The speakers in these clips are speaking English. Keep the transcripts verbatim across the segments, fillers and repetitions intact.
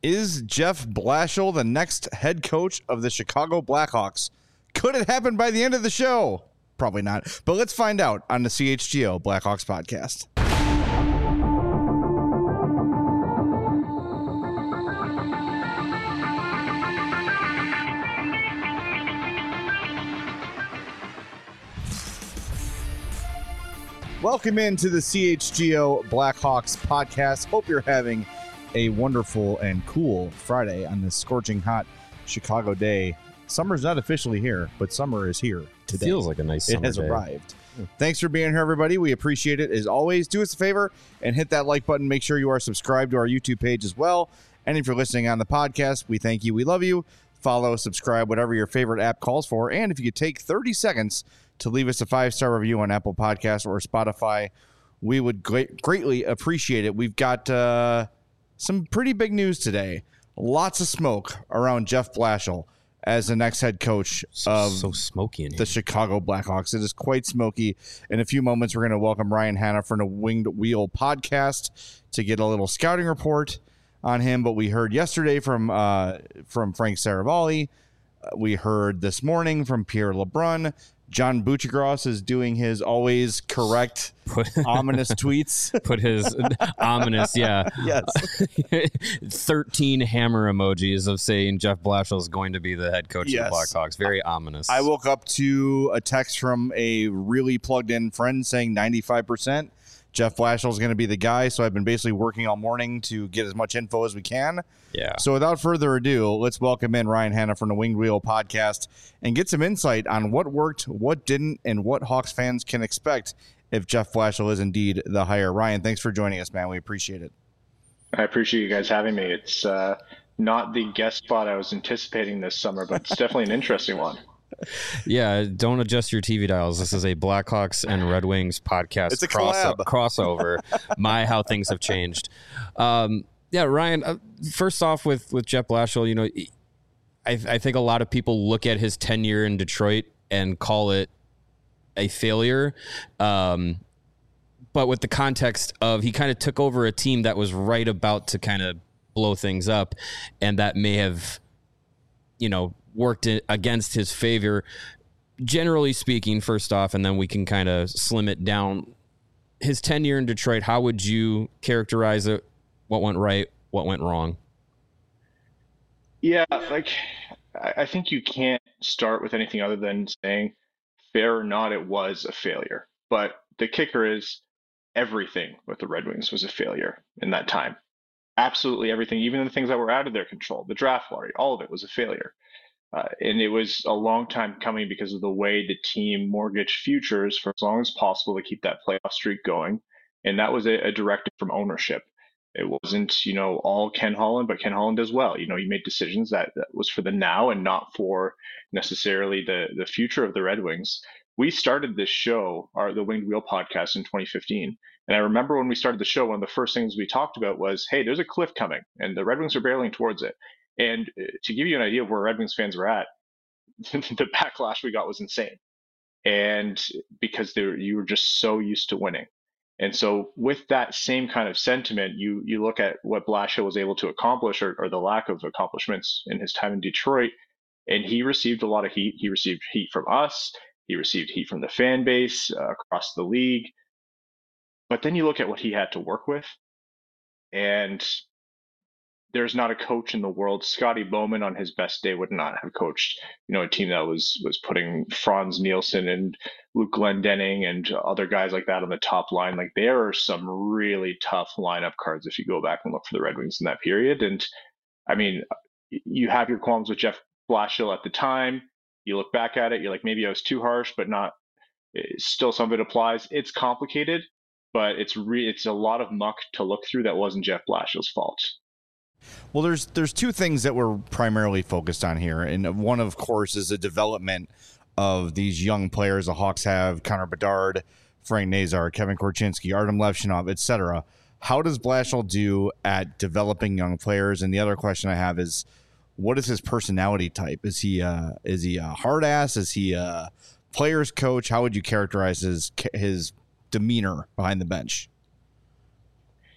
Is Jeff Blashill the next head coach of the Chicago Blackhawks? Could it happen by the end of the show? Probably not. But let's find out on the C H G O Blackhawks podcast. Welcome into the C H G O Blackhawks podcast. Hope you're having a wonderful and cool Friday on this scorching hot Chicago day. Summer's not officially here, but summer is here today. Feels like a nice summer It has day. arrived. Yeah. Thanks for being here, everybody. We appreciate it. As always, do us a favor and hit that like button. Make sure you are subscribed to our YouTube page as well. And if you're listening on the podcast, we thank you. We love you. Follow, subscribe, whatever your favorite app calls for. And if you could take thirty seconds to leave us a five-star review on Apple Podcasts or Spotify, we would great, greatly appreciate it. We've got uh, some pretty big news today. Lots of smoke around Jeff Blashill as the next head coach of so smoky in here. the Chicago Blackhawks. It is quite smoky. In a few moments, we're going to welcome Ryan Hanna from the Winged Wheel podcast to get a little scouting report on him. But we heard yesterday from uh, from Frank Saravalli. We heard this morning from Pierre LeBrun. John Buccigross is doing his always correct, put, ominous tweets. Put his ominous, yeah. Yes. thirteen hammer emojis of saying Jeff Blashill is going to be the head coach yes. of the Blackhawks. Very ominous. I woke up to a text from a really plugged-in friend saying ninety-five percent. Jeff Blashill is going to be the guy, so I've been basically working all morning to get as much info as we can. Yeah. So without further ado, let's welcome in Ryan Hanna from the Winged Wheel podcast and get some insight on what worked, what didn't, and what Hawks fans can expect if Jeff Blashill is indeed the hire. Ryan, thanks for joining us, man. We appreciate it. I appreciate you guys having me. It's uh, not the guest spot I was anticipating this summer, but it's definitely an interesting one. Yeah, don't adjust your T V dials. This is a Blackhawks and Red Wings podcast. It's a cross- collab. crossover. My, how things have changed. Um, yeah, Ryan, uh, first off with, with Jeff Blashill, you know, I, I think a lot of people look at his tenure in Detroit and call it a failure. Um, but with the context of he kind of took over a team that was right about to kind of blow things up, and that may have, you know, worked against his favor, generally speaking, first off, and then we can kind of slim it down. His tenure in Detroit, how would you characterize it? What went right? What went wrong? Yeah, like, I think you can't start with anything other than saying, fair or not, it was a failure. But the kicker is everything with the Red Wings was a failure in that time. Absolutely everything, even the things that were out of their control, the draft lottery, all of it was a failure. Uh, and it was a long time coming because of the way the team mortgaged futures for as long as possible to keep that playoff streak going. And that was a, a directive from ownership. It wasn't, you know, all Ken Holland, but Ken Holland as well. You know, he made decisions that, that was for the now and not for necessarily the, the future of the Red Wings. We started this show, our the Winged Wheel podcast, in twenty fifteen. And I remember when we started the show, one of the first things we talked about was, hey, there's a cliff coming, and the Red Wings are barreling towards it. And to give you an idea of where Red Wings fans were at, the backlash we got was insane. And because they were, you were just so used to winning. And so with that same kind of sentiment, you you look at what Blashill was able to accomplish, or, or the lack of accomplishments in his time in Detroit, and he received a lot of heat. He received heat from us. He received heat from the fan base uh, across the league. But then you look at what he had to work with, and there's not a coach in the world. Scotty Bowman on his best day would not have coached, you know, a team that was was putting Franz Nielsen and Luke Glendening and other guys like that on the top line. Like, there are some really tough lineup cards if you go back and look for the Red Wings in that period. And I mean, you have your qualms with Jeff Blashill at the time. You look back at it, you're like, maybe I was too harsh, but not. Still, some of it applies. It's complicated, but it's re- it's a lot of muck to look through that wasn't Jeff Blashill's fault. Well, there's there's two things that we're primarily focused on here. And one, of course, is the development of these young players the Hawks have: Connor Bedard, Frank Nazar, Kevin Korchinski, Artem Levshinov, et cetera. How does Blashill do at developing young players? And the other question I have is, what is his personality type? Is he uh, is he a hard ass? Is he a player's coach? How would you characterize his his demeanor behind the bench?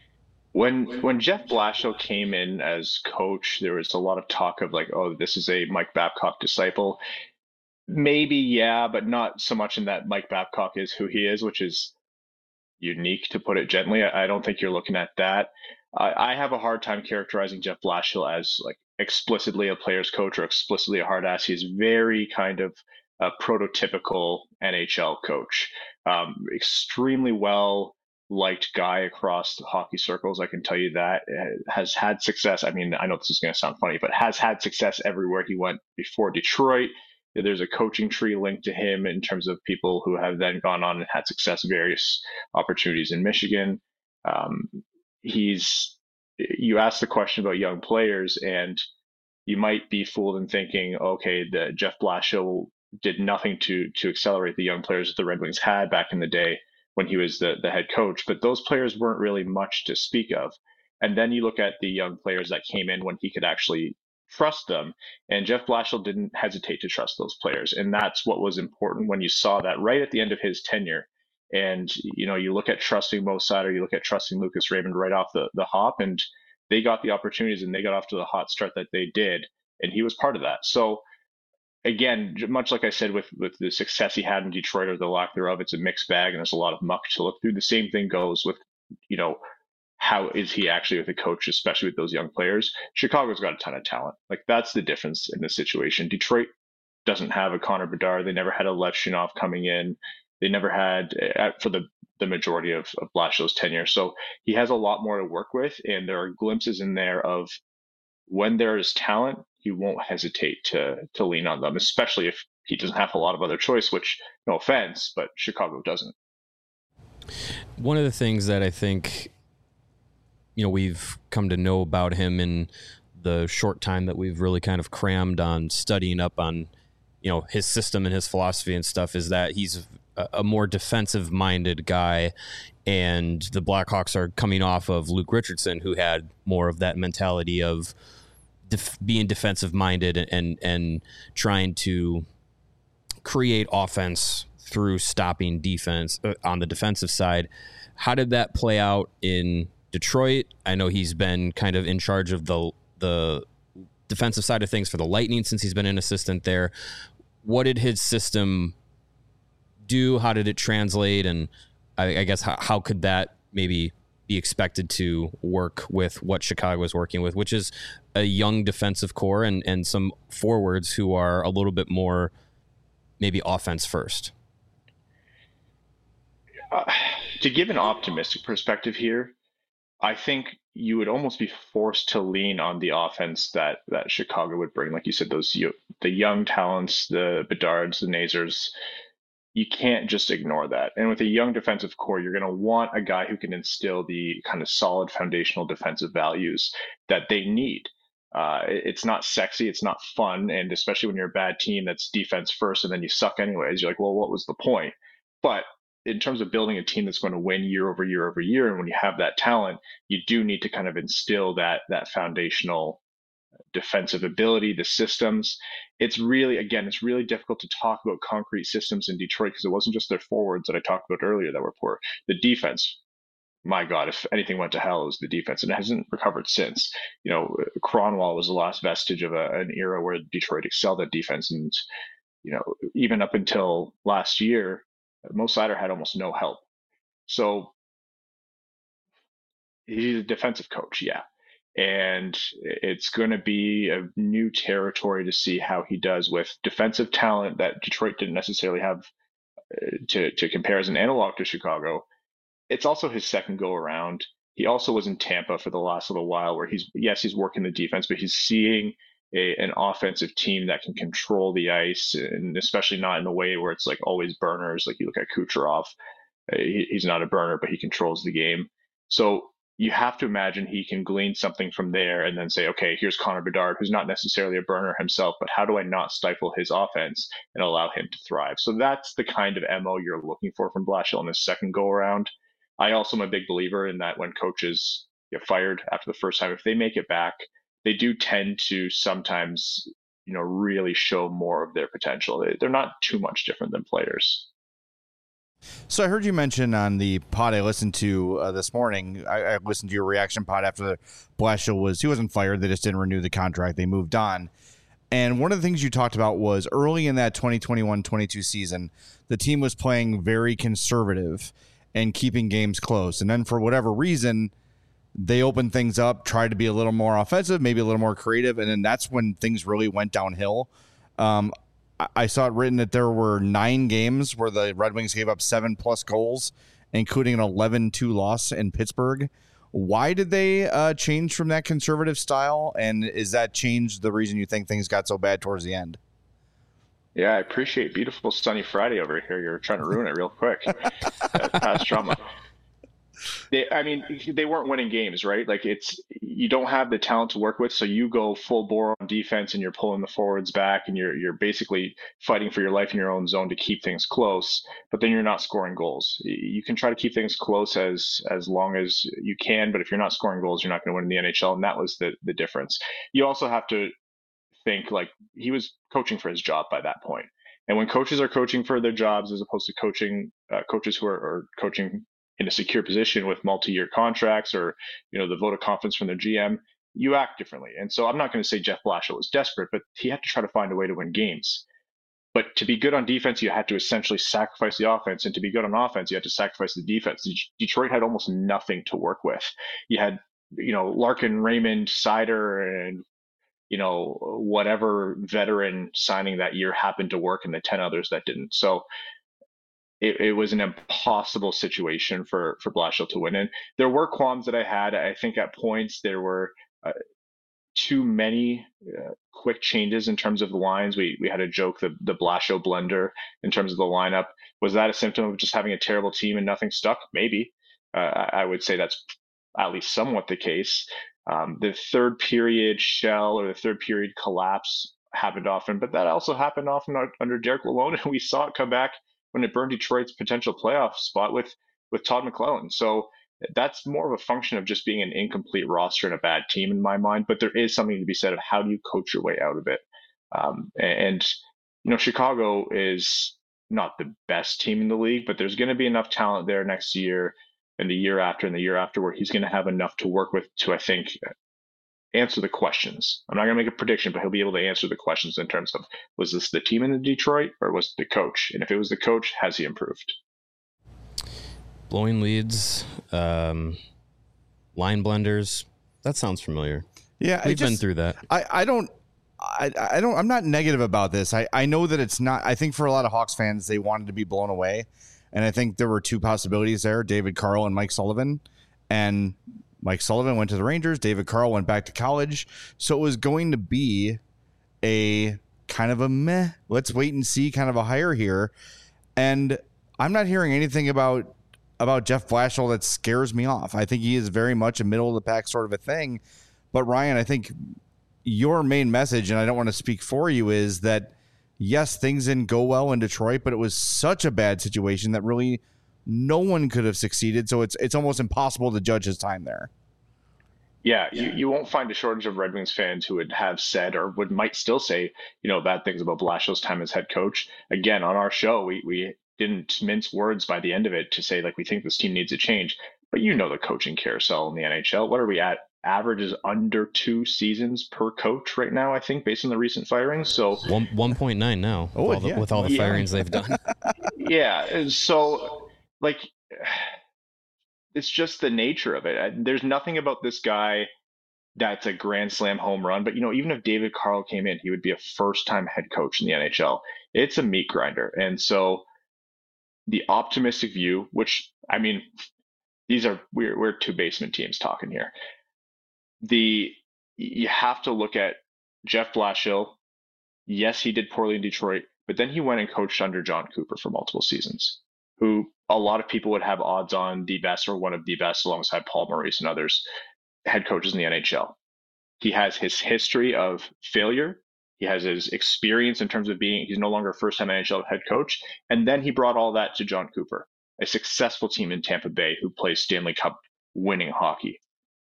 When when Jeff Blashill came in as coach, there was a lot of talk of like, oh, this is a Mike Babcock disciple. Maybe, yeah, but not so much in that Mike Babcock is who he is, which is unique to put it gently. I, I don't think you're looking at that. I, I have a hard time characterizing Jeff Blashill as like explicitly a player's coach or explicitly a hard ass. He's very kind of a prototypical N H L coach. Um, extremely well liked guy across the hockey circles. I can tell you that. Has had success. I mean, I know this is going to sound funny, but has had success everywhere he went before Detroit. There's a coaching tree linked to him in terms of people who have then gone on and had success in various opportunities in Michigan. Um, he's you asked the question about young players, and you might be fooled in thinking, okay, the Jeff Blashill did nothing to to accelerate the young players that the Red Wings had back in the day when he was the the head coach, but those players weren't really much to speak of. And then you look at the young players that came in when he could actually trust them, and Jeff Blashill didn't hesitate to trust those players, and that's what was important when you saw that right at the end of his tenure. And you know, you look at trusting Mo Seider, you look at trusting Lucas Raymond right off the the hop, and they got the opportunities and they got off to the hot start that they did, and he was part of that. So again, much like I said with with the success he had in Detroit or the lack thereof, it's a mixed bag and there's a lot of muck to look through. The same thing goes with, you know, how is he actually with a coach, especially with those young players? Chicago's got a ton of talent. Like that's the difference in this situation. Detroit doesn't have a Connor Bedard. They never had a Lev Shinov coming in. They never had uh, for the the majority of, of Blashill's tenure. So he has a lot more to work with, and there are glimpses in there of when there is talent, he won't hesitate to to lean on them, especially if he doesn't have a lot of other choice, which no offense, but Chicago doesn't. One of the things that I think, you know, we've come to know about him in the short time that we've really kind of crammed on studying up on, you know, his system and his philosophy and stuff is that he's a, a more defensive minded guy. And the Blackhawks are coming off of Luke Richardson, who had more of that mentality of def- being defensive minded and, and, and trying to create offense through stopping defense uh, on the defensive side. How did that play out in Detroit? I know he's been kind of in charge of the the defensive side of things for the Lightning since he's been an assistant there. What did his system do? How did it translate? And I, I guess how, how could that maybe be expected to work with what Chicago is working with, which is a young defensive core and, and some forwards who are a little bit more maybe offense first? Uh, to give an optimistic perspective here, I think you would almost be forced to lean on the offense that that Chicago would bring. Like you said, those the young talents, the Bedards, the Nazers. You can't just ignore that. And with a young defensive core, you're going to want a guy who can instill the kind of solid foundational defensive values that they need. Uh, it's not sexy, it's not fun, and especially when you're a bad team that's defense first and then you suck anyways, you're like, well, what was the point? But in terms of building a team that's going to win year over year over year, and when you have that talent, you do need to kind of instill that that foundational defensive ability, the systems. It's really, again, it's really difficult to talk about concrete systems in Detroit because it wasn't just their forwards that I talked about earlier that were poor. The defense, my God, if anything went to hell, it was the defense, and it hasn't recovered since. You know, Kronwall was the last vestige of a, an era where Detroit excelled at defense, and you know, even up until last year, Mo Seider had almost no help. So he's a defensive coach, yeah. And it's going to be a new territory to see how he does with defensive talent that Detroit didn't necessarily have uh, to, to compare as an analog to Chicago. It's also his second go around. He also was in Tampa for the last little while where he's, yes, he's working the defense, but he's seeing a, an offensive team that can control the ice, and especially not in a way where it's like always burners. Like you look at Kucherov, uh, he, he's not a burner, but he controls the game. So you have to imagine he can glean something from there and then say, okay, here's Connor Bedard, who's not necessarily a burner himself, but how do I not stifle his offense and allow him to thrive? So that's the kind of M O you're looking for from Blashill in his second go around. I also am a big believer in that when coaches get fired after the first time, if they make it back, they do tend to sometimes, you know, really show more of their potential. They're not too much different than players. So I heard you mention on the pod I listened to uh, this morning, I, I listened to your reaction pod after the Blashill was, he wasn't fired. They just didn't renew the contract. They moved on. And one of the things you talked about was early in that twenty twenty-one twenty-two season, the team was playing very conservative and keeping games close. And then for whatever reason, they opened things up, tried to be a little more offensive, maybe a little more creative. And then that's when things really went downhill. Um, I saw it written that there were nine games where the Red Wings gave up seven plus goals, including an eleven two loss in Pittsburgh. Why did they uh, change from that conservative style? And is that change the reason you think things got so bad towards the end? Yeah, I appreciate beautiful sunny Friday over here. You're trying to ruin it real quick. Past drama. They, I mean, they weren't winning games, right? Like it's, you don't have the talent to work with. So you go full bore on defense and you're pulling the forwards back and you're, you're basically fighting for your life in your own zone to keep things close, but then you're not scoring goals. You can try to keep things close as, as long as you can, but if you're not scoring goals, you're not going to win in the N H L. And that was the, the difference. You also have to think like he was coaching for his job by that point. And when coaches are coaching for their jobs, as opposed to coaching uh, coaches who are, are coaching in a secure position with multi-year contracts or, you know, the vote of confidence from their G M, you act differently. And so I'm not going to say Jeff Blashill was desperate, but he had to try to find a way to win games. But to be good on defense, you had to essentially sacrifice the offense. And to be good on offense, you had to sacrifice the defense. Detroit had almost nothing to work with. You had, you know, Larkin, Raymond, Seider, and, you know, whatever veteran signing that year happened to work, and the ten others that didn't. So It, it was an impossible situation for for Blashill to win in. There were qualms that I had. I think at points there were uh, too many uh, quick changes in terms of the lines. We we had a joke, the the Blashill blender in terms of the lineup. Was that a symptom of just having a terrible team and nothing stuck? Maybe. Uh, I would say that's at least somewhat the case. Um, the third period shell or the third period collapse happened often, but that also happened often under Derek Lalonde, and we saw it come back when it burned Detroit's potential playoff spot with with Todd McLellan. So that's more of a function of just being an incomplete roster and a bad team in my mind. But there is something to be said of how do you coach your way out of it. Um, and, you know, Chicago is not the best team in the league, but there's going to be enough talent there next year and the year after and the year after where he's going to have enough to work with to, I think, answer the questions. I'm not going to make a prediction, but he'll be able to answer the questions in terms of, was this the team in the Detroit or was it the coach? And if it was the coach, has he improved? Blowing leads, um, line blenders. That sounds familiar. Yeah, we've just, been through that. I, I don't, I, I don't, I'm not negative about this. I, I know that it's not, I think for a lot of Hawks fans, they wanted to be blown away. And I think there were two possibilities there, David Carl and Mike Sullivan. And Mike Sullivan went to the Rangers. David Carl went back to college. So it was going to be a kind of a meh, let's wait and see kind of a hire here. And I'm not hearing anything about about Jeff Blashill that scares me off. I think he is very much a middle of the pack sort of a thing. But Ryan, I think your main message, and I don't want to speak for you, is that yes, things didn't go well in Detroit, but it was such a bad situation that really no one could have succeeded. So it's it's almost impossible to judge his time there. Yeah, you, you won't find a shortage of Red Wings fans who would have said or would might still say, you know, bad things about Blashill's time as head coach. Again, on our show, we we didn't mince words by the end of it to say, like, we think this team needs a change. But you know the coaching carousel in the N H L. What are we at? Average is under two seasons per coach right now, I think, based on the recent firings. So one one point nine now oh, with, all the, yeah. with all the yeah. firings they've done. Yeah, and so like it's just the nature of it. There's nothing about this guy that's a grand slam home run. But, you know, even if David Carl came in, he would be a first-time head coach in the N H L. It's a meat grinder. And so the optimistic view, which, I mean, these are, we're, we're two basement teams talking here. The, you have to look at Jeff Blashill. Yes, he did poorly in Detroit, but then he went and coached under John Cooper for multiple seasons, who a lot of people would have odds on the best or one of the best alongside Paul Maurice and others head coaches in the N H L. He has his history of failure. He has his experience in terms of being, he's no longer a first-time N H L head coach. And then he brought all that to John Cooper, a successful team in Tampa Bay who plays Stanley Cup winning hockey.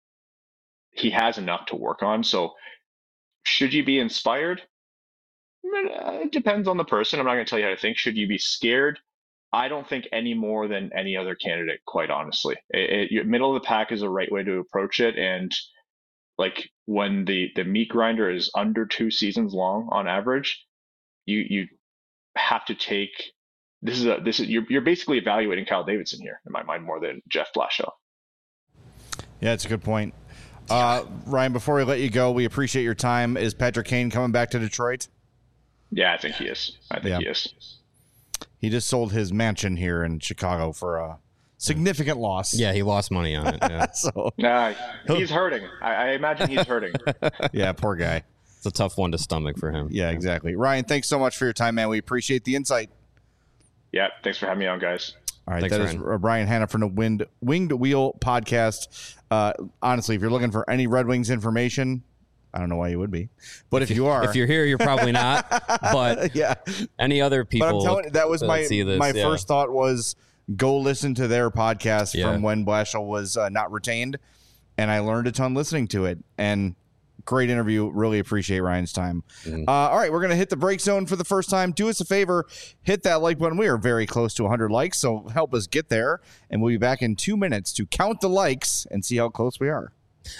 He has enough to work on. So should you be inspired? It depends on the person. I'm not going to tell you how to think. Should you be scared? I don't think any more than any other candidate, quite honestly. It, it, middle of the pack is the right way to approach it. And like when the, the meat grinder is under two seasons long on average, you you have to take this is a this is you're you're basically evaluating Kyle Davidson here in my mind more than Jeff Blashill. Yeah, it's a good point. Uh, Ryan, before we let you go, we appreciate your time. Is Patrick Kane coming back to Detroit? Yeah, I think he is. I think yeah. he is. He just sold his mansion here in Chicago for a significant loss. Yeah, he lost money on it. Yeah. so Nah, he's hurting. I, I imagine he's hurting. Yeah, poor guy. It's a tough one to stomach for him. Yeah, exactly. Ryan, thanks so much for your time, man. We appreciate the insight. Yeah, thanks for having me on, guys. All right, Thanks, that Ryan. is Brian Hanna from the Wind, Winged Wheel podcast. Uh, honestly, if you're looking for any Red Wings information, I don't know why you would be, but if, if you are, if you're here, you're probably not. But yeah, any other people, but I'm telling you, that was my this, my yeah. first thought was go listen to their podcast Yeah. from when Blashill was uh, not retained, and I learned a ton listening to it. And great interview. Really appreciate Ryan's time. Mm-hmm. Uh, all right, we're gonna hit the break zone for the first time. Do us a favor, hit that like button. We are very close to one hundred likes, so help us get there. And we'll be back in two minutes to count the likes and see how close we are.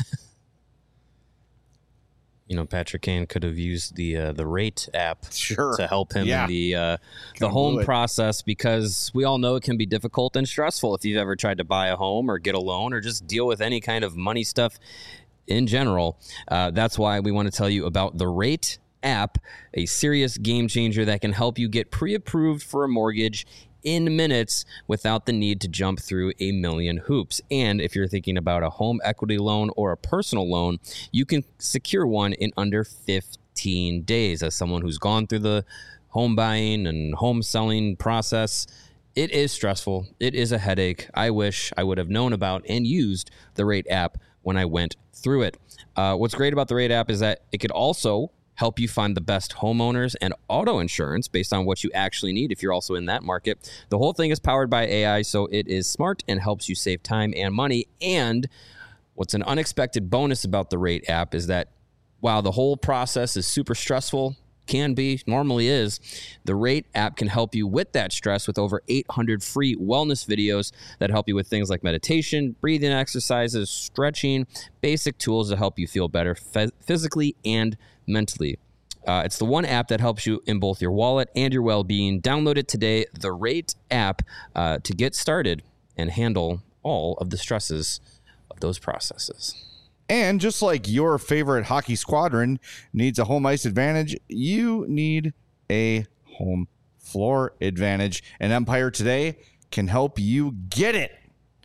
You know, Patrick Kane could have used the uh, the Rate app Sure. to help him Yeah. in the uh, the Kinda home blew it. process, because we all know it can be difficult and stressful if you've ever tried to buy a home or get a loan or just deal with any kind of money stuff in general. Uh, that's why we want to tell you about the Rate app, a serious game changer that can help you get pre-approved for a mortgage in minutes without the need to jump through a million hoops. And if you're thinking about a home equity loan or a personal loan, you can secure one in under fifteen days. As someone who's gone through the home buying and home selling process, it is stressful. It is a headache. I wish I would have known about and used the Rate app when I went through it. Uh, what's great about the Rate app is that it could also help you find the best homeowners and auto insurance based on what you actually need if you're also in that market. The whole thing is powered by A I, so it is smart and helps you save time and money. And what's an unexpected bonus about the Rate app is that while the whole process is super stressful, can be, normally is, the Rate app can help you with that stress with over eight hundred free wellness videos that help you with things like meditation, breathing exercises, stretching, basic tools to help you feel better f- physically and mentally. Uh, it's the one app that helps you in both your wallet and your well-being. Download it today, the Rate app, uh, to get started and handle all of the stresses of those processes. And just like your favorite hockey squadron needs a home ice advantage, you need a home floor advantage. And Empire Today can help you get it.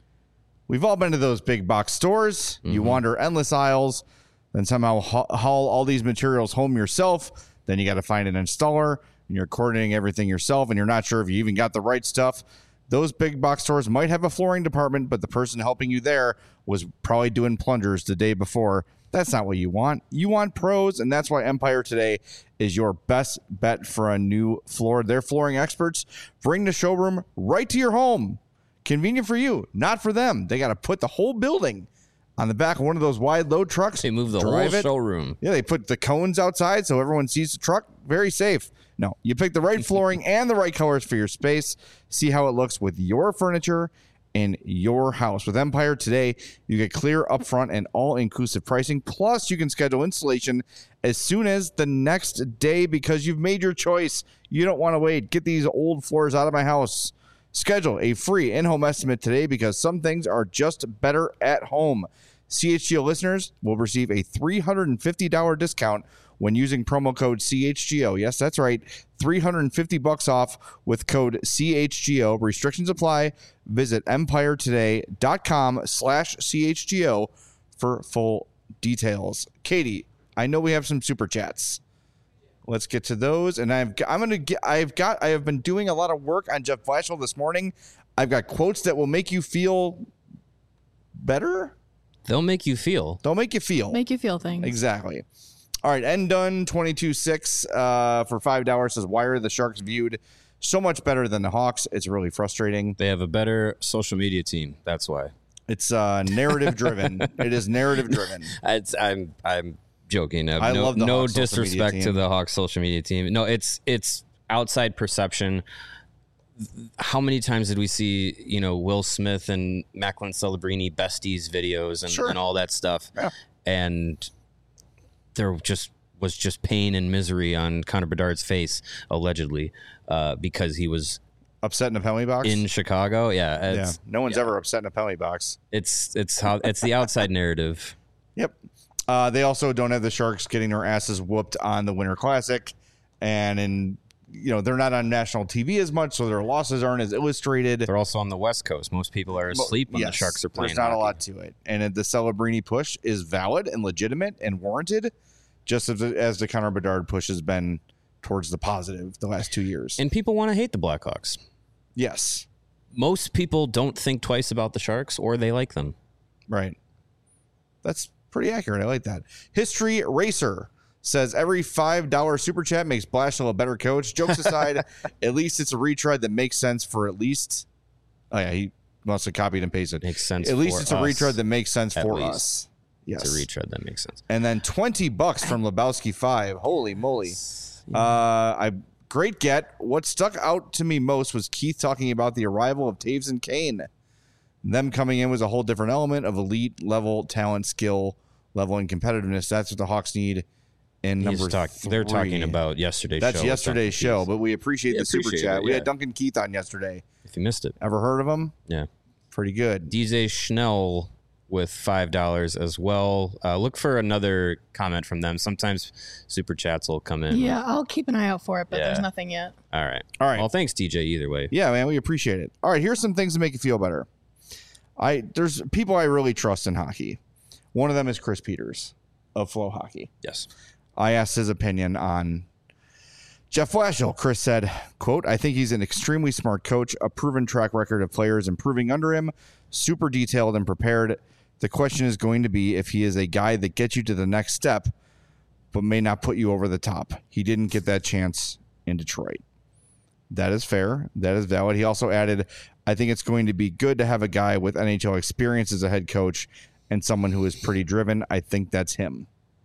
We've all been to those big box stores. Mm-hmm. You wander endless aisles, then somehow haul all these materials home yourself. Then you got to find an installer, and you're coordinating everything yourself, and you're not sure if you even got the right stuff. Those big box stores might have a flooring department, but the person helping you there was probably doing plungers the day before. That's not what you want. You want pros, and that's why Empire Today is your best bet for a new floor. Their flooring experts bring the showroom right to your home. Convenient for you, not for them. They got to put the whole building on the back of one of those wide load trucks. They move the whole it. showroom. Yeah, they put the cones outside so everyone sees the truck. Very safe. No, you pick the right flooring and the right colors for your space. See how it looks with your furniture in your house. With Empire Today, you get clear upfront and all-inclusive pricing. Plus, you can schedule installation as soon as the next day because you've made your choice. You don't want to wait. Get these old floors out of my house. Schedule a free in-home estimate today because some things are just better at home. C H G O listeners will receive a three hundred fifty dollars discount when using promo code C H G O. Yes, that's right. three hundred fifty bucks off with code C H G O. Restrictions apply. Visit empiretoday.com slash CHGO for full details. Katie, I know we have some super chats. Let's get to those. And I've I'm going to get I've got I have been doing a lot of work on Jeff Blashill this morning. I've got quotes that will make you feel better. They'll make you feel. They'll make you feel. Make you feel things. Exactly. All right, N Dunn twenty-two six uh, for five dollars says, why are the Sharks viewed so much better than the Hawks? It's really frustrating. They have a better social media team. That's why. It's uh, narrative driven. It is narrative driven. It's, I'm I'm joking. I no, love the no Hawks social media disrespect to team. the Hawks social media team. No, it's it's outside perception. how many times did we see, you know, Will Smith and Macklin Celebrini besties videos and, Sure. and all that stuff? Yeah. And there just was just pain and misery on Connor Bedard's face, allegedly, uh, because he was Upset in a penalty box? in Chicago. Yeah. yeah. It's, No one's yeah. ever upset in a penalty box. it's, it's how it's the outside narrative. Yep. Uh, they also don't have the Sharks getting their asses whooped on the Winter Classic. And in, you know, they're not on national T V as much, so their losses aren't as illustrated. They're also on the West Coast. Most people are asleep when Yes, the Sharks are playing. There's not hockey. a lot to it. And the Celebrini push is valid and legitimate and warranted, just as, as the Connor Bedard push has been towards the positive the last two years. And people want to hate the Blackhawks. Yes. Most people don't think twice about the Sharks, or they like them. Right. That's pretty accurate. I like that. History Racer says every five dollar super chat makes Blashill a better coach. Jokes aside, at least it's a retread that makes sense for at least. Oh, yeah. He must have copied and pasted. Makes sense. At least for it's a us. retread that makes sense At for least. us. Yes. It's a retread that makes sense. And then twenty bucks from Lebowski five. Holy moly. Uh, I great get. What stuck out to me most was Keith talking about the arrival of Taves and Kane. Them coming in was a whole different element of elite level talent, skill level, and competitiveness. That's what the Hawks need in He's number talk, three. They're talking about yesterday's That's show. yesterday's Duncan show, Keith. but we appreciate Yeah, the super appreciate chat. it, We yeah. had Duncan Keith on yesterday. If you missed it. Ever heard of him? Yeah. Pretty good. D J Schnell with five dollars as well. Uh, look for another comment from them. Sometimes super chats will come in. Yeah, I'll keep an eye out for it, but Yeah. there's nothing yet. All right. All right. Well, thanks, D J, either way. Yeah, man, we appreciate it. All right, here's some things to make you feel better. I there's people I really trust in hockey. One of them is Chris Peters of Flow Hockey. Yes. I asked his opinion on Jeff Blashill. Chris said, quote, I think he's an extremely smart coach, a proven track record of players improving under him, super detailed and prepared. The question is going to be if he is a guy that gets you to the next step, but may not put you over the top. He didn't get that chance in Detroit. That is fair. That is valid. He also added, I think it's going to be good to have a guy with N H L experience as a head coach and someone who is pretty driven. I think that's him.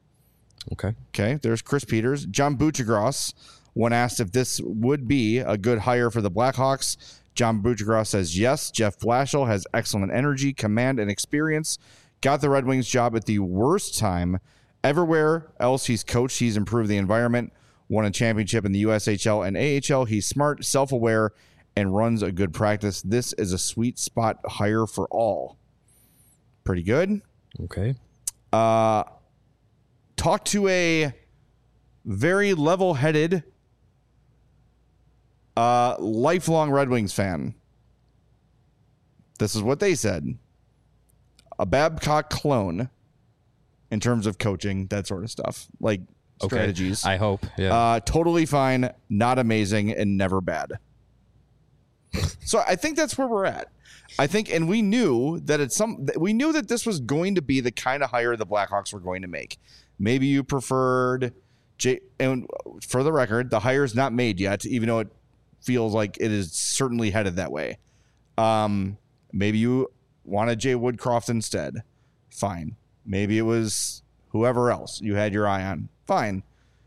Okay. Okay, there's Chris Peters. John Buchagras, when asked if this would be a good hire for the Blackhawks, John Buchagras says yes. Jeff Blashill has excellent energy, command, and experience. Got the Red Wings job at the worst time. Everywhere else he's coached, he's improved the environment, won a championship in the U S H L and A H L. He's smart, self-aware, and runs a good practice. This is a sweet spot hire for all. Pretty good. Okay. Uh, talk to a very level-headed, uh, lifelong Red Wings fan. This is what they said. A Babcock clone in terms of coaching, that sort of stuff, like Okay. strategies. I hope. Yeah. Uh, totally fine, not amazing, and never bad. So I think that's where we're at. I think, and we knew that it's some. We knew that this was going to be the kind of hire the Blackhawks were going to make. Maybe you preferred, J, and for the record, the hire's not made yet, even though it feels like it is certainly headed that way. Um, maybe you wanted Jay Woodcroft instead. Fine. Maybe it was whoever else you had your eye on. Fine.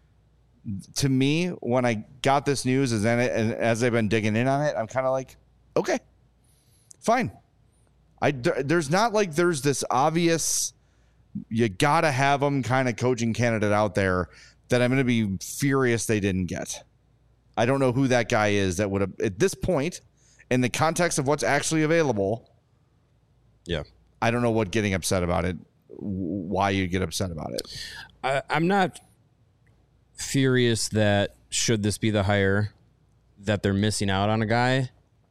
To me, when I got this news, as and as I've been digging in on it, I'm kind of like, okay, fine. I there's not like there's this obvious, you gotta have them kind of coaching candidate out there that I'm going to be furious they didn't get. I don't know who that guy is that would have at this point, in the context of what's actually available. yeah. I don't know what getting upset about it, why you get upset about it. I, I'm not furious that should this be the hire that they're missing out on a guy.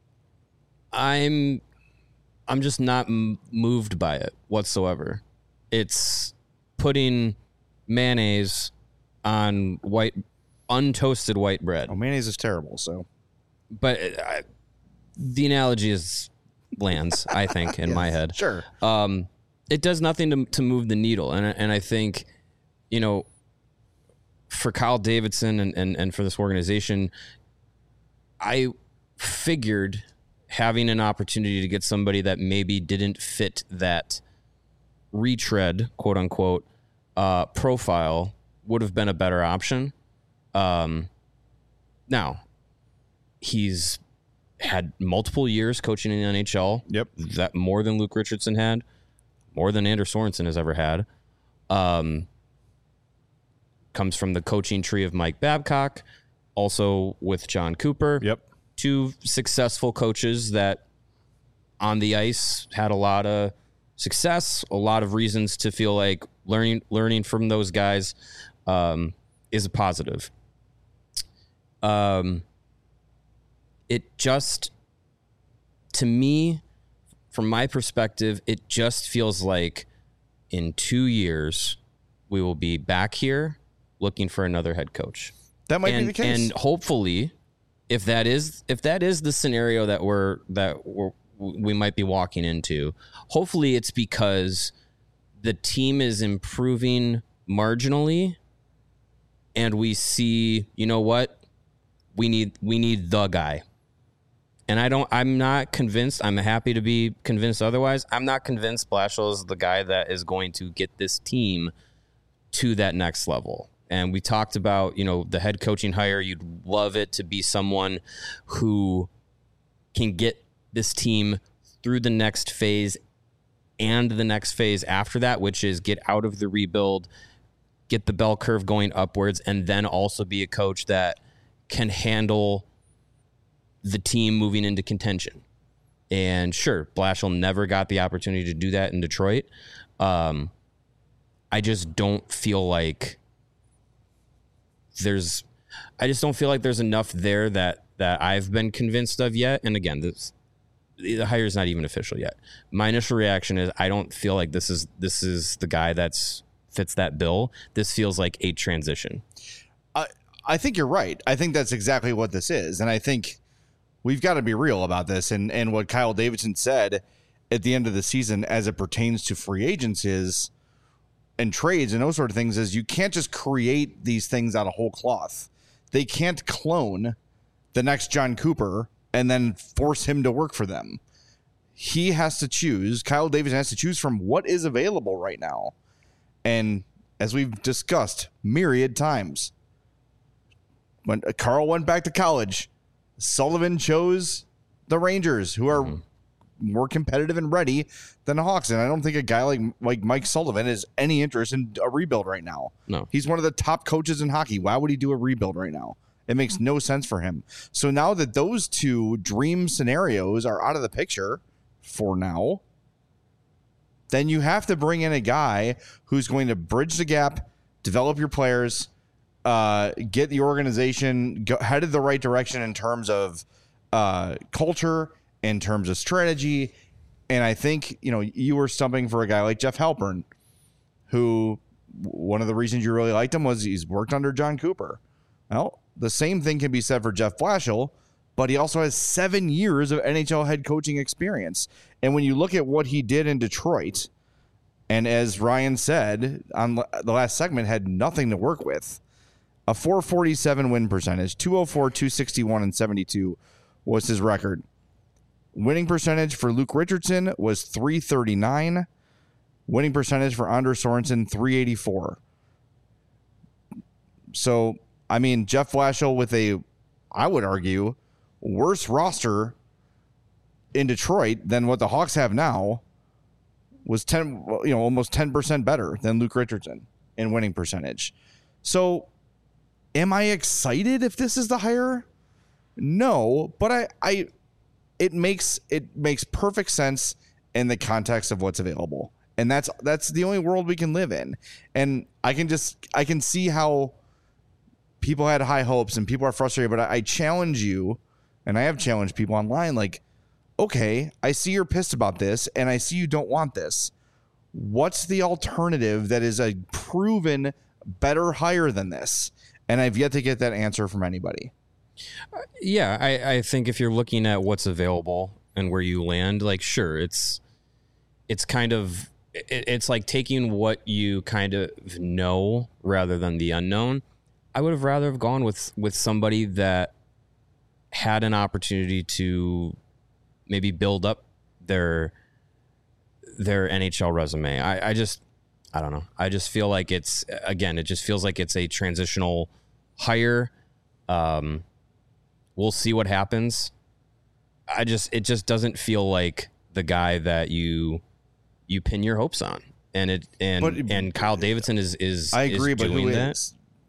I'm I'm just not m- moved by it whatsoever. It's putting mayonnaise on white untoasted white bread. Oh, mayonnaise is terrible. So, But it, I, the analogy is lands, I think, in Yes, my head. sure. Um, it does nothing to to move the needle, and and I think, you know, for Kyle Davidson and, and, and for this organization, I figured having an opportunity to get somebody that maybe didn't fit that retread, quote unquote, uh, profile would have been a better option. Um, now, he's had multiple years coaching in the N H L. Yep. That more than Luke Richardson had, more than Anders Sorensen has ever had. Um, comes from the coaching tree of Mike Babcock, also with John Cooper. Yep. Two successful coaches that on the ice had a lot of success, a lot of reasons to feel like learning learning from those guys um, is a positive. Um, it just, to me, from my perspective, it just feels like in two years we will be back here looking for another head coach. That might and, be the case. And hopefully, if that is if that is the scenario that we're that we're, we might be walking into, hopefully it's because the team is improving marginally, and we see, you know what, we need we need the guy. And I don't. I'm not convinced. I'm happy to be convinced otherwise. I'm not convinced Blashill is the guy that is going to get this team to that next level. And we talked about, you know, the head coaching hire. You'd love it to be someone who can get this team through the next phase and the next phase after that, which is get out of the rebuild, get the bell curve going upwards, and then also be a coach that can handle the team moving into contention. And sure, Blashill never got the opportunity to do that in Detroit. Um, I just don't feel like there's, I just don't feel like there's enough there that, that I've been convinced of yet. And again, this, the hire is not even official yet. My initial reaction is I don't feel like this is, this is the guy that's fits that bill. This feels like a transition. I, I think you're right. I think that's exactly what this is. And I think we've got to be real about this. And, and what Kyle Davidson said at the end of the season as it pertains to free agents is, and trades and those sort of things, is you can't just create these things out of whole cloth. They can't clone the next John Cooper and then force him to work for them. He has to choose. Kyle Davidson has to choose from what is available right now. And as we've discussed myriad times, when Carl went back to college, Sullivan chose the Rangers, who are mm-hmm. more competitive and ready than the Hawks. And I don't think a guy like like Mike Sullivan has any interest in a rebuild right now. No. He's one of the top coaches in hockey. Why would he do a rebuild right now? It makes no sense for him. So now that those two dream scenarios are out of the picture for now, then you have to bring in a guy who's going to bridge the gap, develop your players, uh, get the organization go, headed the right direction in terms of uh, culture, in terms of strategy. And I think, you know, you were stumping for a guy like Jeff Halpern, who one of the reasons you really liked him was he's worked under John Cooper. Well, the same thing can be said for Jeff Blashill, but he also has seven years of N H L head coaching experience. And when you look at what he did in Detroit, and as Ryan said on the last segment, had nothing to work with, a four forty-seven win percentage, two oh four, two sixty-one, and seventy-two was his record. Winning percentage for Luke Richardson was three thirty-nine. Winning percentage for Anders Sorensen, three eighty-four. So, I mean, Jeff Blashill with a, I would argue, worse roster in Detroit than what the Hawks have now was ten, you know, almost ten percent better than Luke Richardson in winning percentage. So, am I excited if this is the hire? No, but I, I, it makes it makes perfect sense in the context of what's available, and that's that's the only world we can live in. And I can just I can see how people had high hopes and people are frustrated, but I, I challenge you, and I have challenged people online, like, okay, I see you're pissed about this, and I see you don't want this. What's the alternative that is a proven better hire than this? And I've yet to get that answer from anybody. Yeah, I, I think if you're looking at what's available and where you land, like, sure, it's it's kind of it, it's like taking what you kind of know rather than the unknown. I would have rather have gone with with somebody that had an opportunity to maybe build up their their N H L resume. I, I just I don't know. I just feel like it's again, it just feels like it's a transitional hire. Um, we'll see what happens. I just it just doesn't feel like the guy that you you pin your hopes on. And it and but, and Kyle Davidson is is I agree, is but doing who that. Is?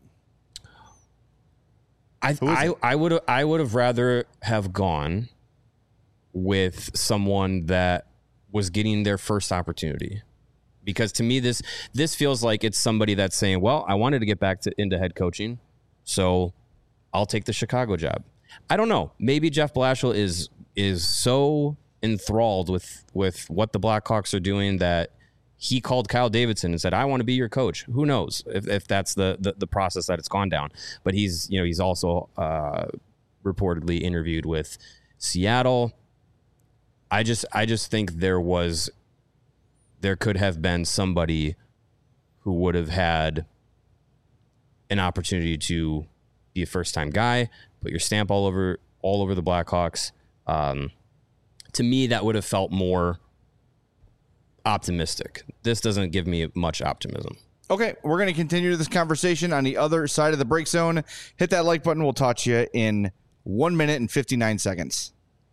I Who is I it? I would I would have rather have gone with someone that was getting their first opportunity, because to me this this feels like it's somebody that's saying, well, I wanted to get back to into head coaching, so I'll take the Chicago job. I don't know. Maybe Jeff Blashill is is so enthralled with with what the Blackhawks are doing that he called Kyle Davidson and said, I want to be your coach. Who knows if, if that's the, the the process that it's gone down. But he's, you know, he's also uh, reportedly interviewed with Seattle. I just I just think there was there could have been somebody who would have had an opportunity to be a first time guy, put your stamp all over all over the Blackhawks. Um, to me, that would have felt more optimistic. This doesn't give me much optimism. Okay, we're going to continue this conversation on the other side of the break zone. Hit that like button. We'll talk to you in one minute and fifty-nine seconds.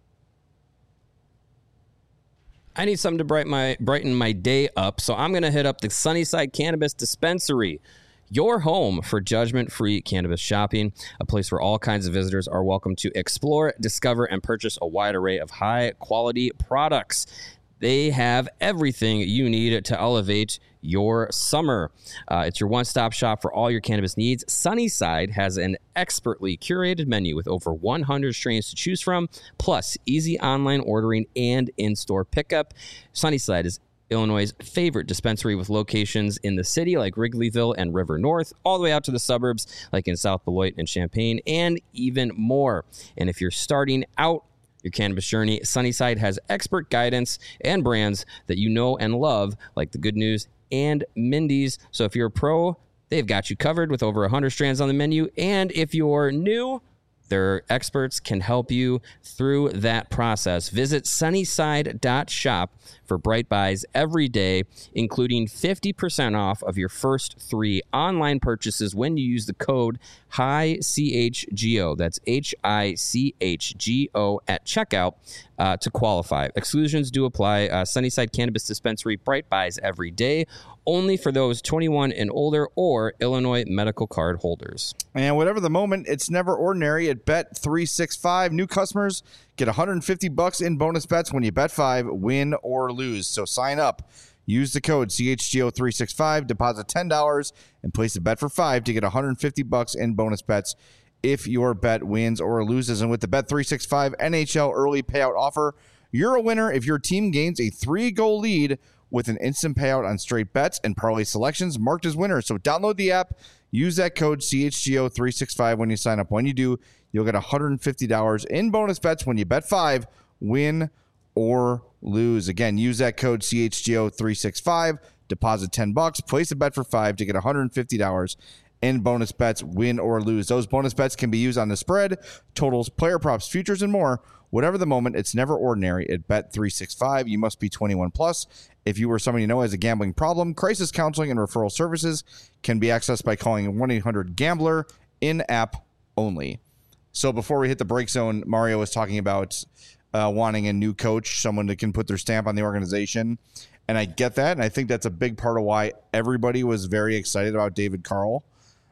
I need something to brighten my brighten my day up, so I'm going to hit up the Sunnyside Cannabis Dispensary, your home for judgment-free cannabis shopping, a place where all kinds of visitors are welcome to explore, discover, and purchase a wide array of high-quality products. They have everything you need to elevate your summer. Uh, it's your one-stop shop for all your cannabis needs. Sunnyside has an expertly curated menu with over one hundred strains to choose from, plus easy online ordering and in-store pickup. Sunnyside is Illinois' favorite dispensary with locations in the city like Wrigleyville and River North, all the way out to the suburbs like in South Beloit and Champaign, and even more. And if you're starting out your cannabis journey, Sunnyside has expert guidance and brands that you know and love, like the Good News and Mindy's. So if you're a pro, they've got you covered with over one hundred strands on the menu. And if you're new, their experts can help you through that process. Visit sunnyside dot shop for Bright Buys every day, including fifty percent off of your first three online purchases when you use the code H I C H G O. That's H I C H G O at checkout uh, to qualify. Exclusions do apply. Uh, Sunnyside Cannabis Dispensary, Bright Buys every day, only for those twenty-one and older or Illinois medical card holders. And whatever the moment, it's never ordinary at Bet three sixty-five. New customers get one hundred fifty bucks in bonus bets when you bet five, win or lose. So sign up. Use the code C H G O three sixty-five, deposit ten dollars, and place a bet for five to get one hundred fifty bucks in bonus bets if your bet wins or loses. And with the Bet three sixty-five N H L early payout offer, you're a winner if your team gains a three-goal lead with an instant payout on straight bets and parlay selections marked as winners. So download the app, use that code C H G O three sixty-five when you sign up. When you do, you'll get one hundred fifty dollars in bonus bets when you bet five, win or lose. Again, use that code C H G O three sixty-five, deposit ten bucks, place a bet for five to get one hundred fifty dollars in bonus bets, win or lose. Those bonus bets can be used on the spread, totals, player props, futures, and more. Whatever the moment, it's never ordinary at Bet three sixty-five. You must be twenty-one plus. If you or someone you know has a gambling problem, crisis counseling and referral services can be accessed by calling one eight hundred gambler, in-app only. So before we hit the break zone, Mario was talking about uh, wanting a new coach, someone that can put their stamp on the organization. And I get that, and I think that's a big part of why everybody was very excited about David Carl.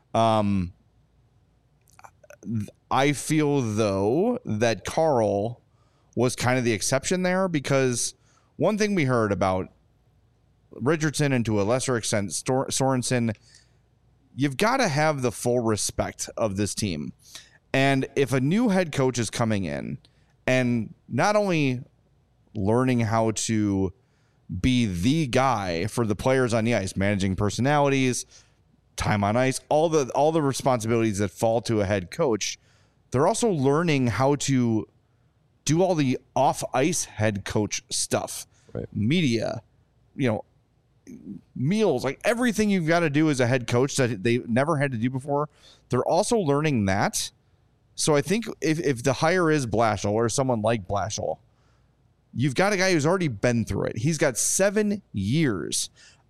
Um, I feel, though, that Carl was kind of the exception there, because one thing we heard about Richardson and to a lesser extent Stor- Sorensen, you've got to have the full respect of this team. And if a new head coach is coming in and not only learning how to be the guy for the players on the ice, managing personalities, time on ice, all the all the responsibilities that fall to a head coach, they're also learning how to do all the off-ice head coach stuff, right? Media, you know, meals, like everything you've got to do as a head coach that they never had to do before. They're also learning that. So I think if, if the hire is Blashill or someone like Blashill, you've got a guy who's already been through it. He's got seven years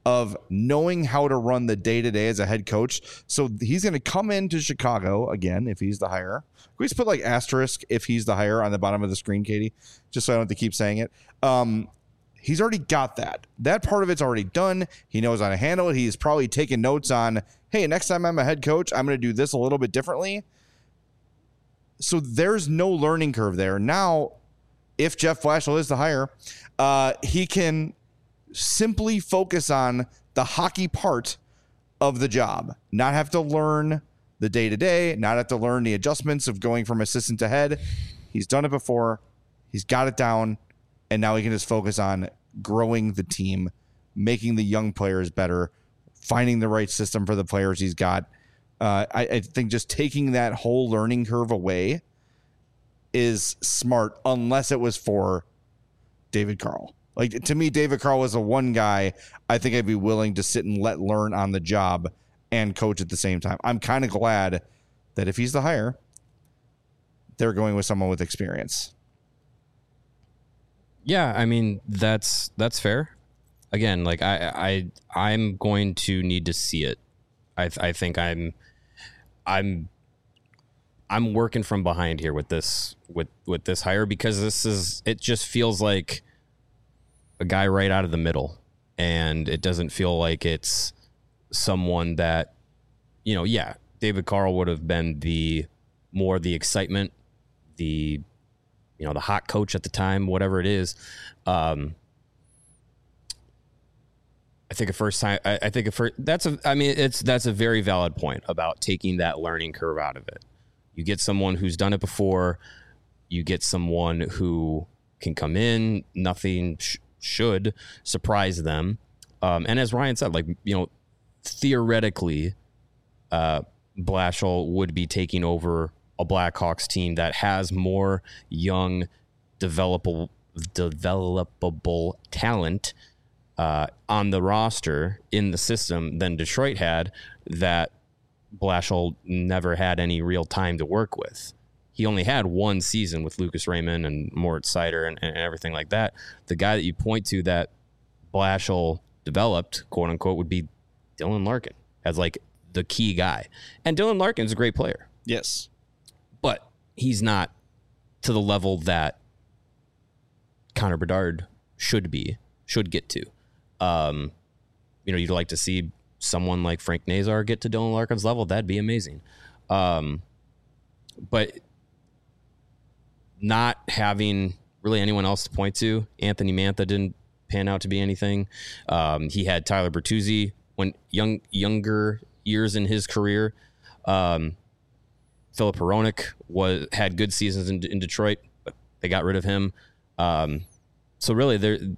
of knowing how to run the day-to-day as a head coach. So he's going to come into Chicago again if he's the hire. Can we just put like asterisk if he's the hire on the bottom of the screen, Katie, just so I don't have to keep saying it. Um, he's already got that. That part of it's already done. He knows how to handle it. He's probably taken notes on, hey, next time I'm a head coach, I'm going to do this a little bit differently. So there's no learning curve there. Now, if Jeff Blashill is the hire, uh, he can simply focus on the hockey part of the job, not have to learn the day-to-day, not have to learn the adjustments of going from assistant to head. He's done it before. He's got it down, and now he can just focus on growing the team, making the young players better, finding the right system for the players he's got. Uh, I, I think just taking that whole learning curve away is smart, unless it was for David Carl. Like, to me, David Carl was the one guy I think I'd be willing to sit and let learn on the job and coach at the same time. I'm kind of glad that if he's the hire, they're going with someone with experience. Yeah, I mean, that's that's fair. Again, like I I I'm going to need to see it. I I think I'm I'm I'm working from behind here with this with with this hire, because this is it just feels like a guy right out of the middle, and it doesn't feel like it's someone that, you know, yeah, David Carl would have been the more the excitement, the, you know, the hot coach at the time, whatever it is. Um, I think a first time, I, I think a first, that's a, I mean, it's, that's a very valid point about taking that learning curve out of it. You get someone who's done it before, you get someone who can come in, nothing sh- should surprise them. Um, and as Ryan said, like, you know, theoretically, uh, Blashill would be taking over a Blackhawks team that has more young, developable, developable talent uh, on the roster in the system than Detroit had, that Blashill never had any real time to work with. He only had one season with Lucas Raymond and Moritz Seider and, and everything like that. The guy that you point to that Blashill developed, quote unquote, would be Dylan Larkin as like the key guy. And Dylan Larkin's a great player. Yes. But he's not to the level that Connor Bedard should be, should get to. Um, you know, you'd like to see someone like Frank Nazar get to Dylan Larkin's level. That'd be amazing. Um, but not having really anyone else to point to, Anthony Mantha didn't pan out to be anything. Um, he had Tyler Bertuzzi when young younger years in his career. Um, Philip Hronek was had good seasons in, in Detroit, but they got rid of him. Um, so really, the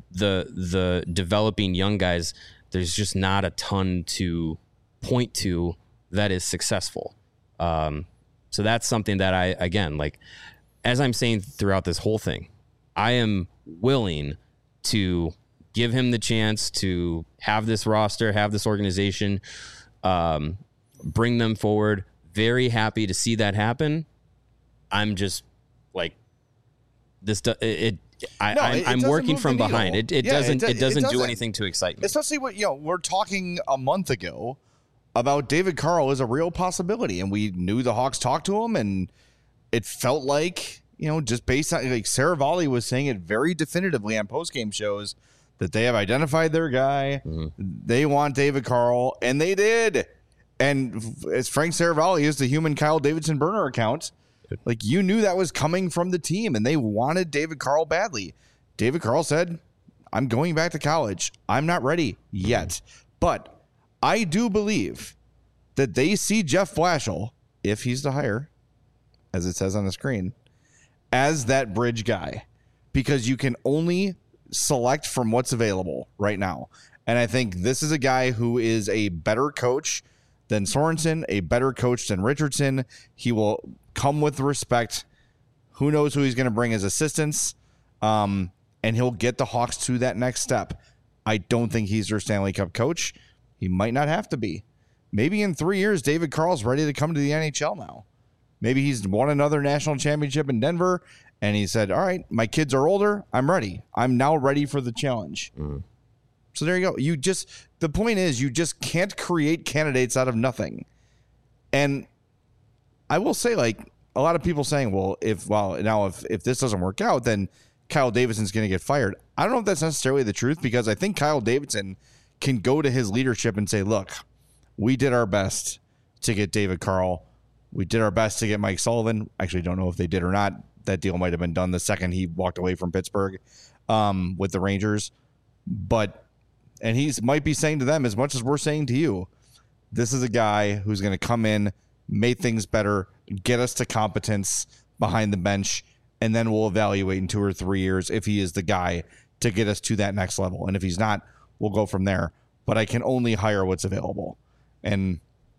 the developing young guys, there's just not a ton to point to that is successful. Um, so that's something that I, again, like, as I'm saying throughout this whole thing, I am willing to give him the chance to have this roster, have this organization, um, bring them forward. Very happy to see that happen. I'm just like this. It. it I, no, I'm, it I'm working from behind. It. It yeah, doesn't. It, it, doesn't it doesn't do anything to excite me. Especially what you know. We're talking a month ago about David Carl is a real possibility, and we knew the Hawks talked to him, and it felt like, you know, just based on, like, Saravalli was saying it very definitively on post-game shows that they have identified their guy. Mm-hmm. They want David Carl, and they did. And as Frank Saravalli is the human Kyle Davidson burner account, like, you knew that was coming from the team, and they wanted David Carl badly. David Carl said, I'm going back to college. I'm not ready yet. But I do believe that they see Jeff Blashill, if he's the hire, as it says on the screen, as that bridge guy, because you can only select from what's available right now. And I think this is a guy who is a better coach than Sorensen, a better coach than Richardson. He will come with respect. Who knows who he's going to bring as assistants, um, and he'll get the Hawks to that next step. I don't think he's their Stanley Cup coach. He might not have to be. Maybe in three years, David Carl's ready to come to the N H L now. Maybe he's won another national championship in Denver, and he said, all right, my kids are older. I'm ready. I'm now ready for the challenge. Mm. So there you go. You just, the point is, you just can't create candidates out of nothing. And I will say, like, a lot of people saying, well, if, well, now if, if this doesn't work out, then Kyle Davidson's going to get fired. I don't know if that's necessarily the truth, because I think Kyle Davidson can go to his leadership and say, look, we did our best to get David Carl. We did our best to get Mike Sullivan. Actually, don't know if they did or not. That deal might have been done the second he walked away from Pittsburgh um, with the Rangers. But, and he's might be saying to them, as much as we're saying to you, this is a guy who's going to come in, make things better, get us to competence behind the bench, and then we'll evaluate in two or three years if he is the guy to get us to that next level. And if he's not, we'll go from there. But I can only hire what's available. And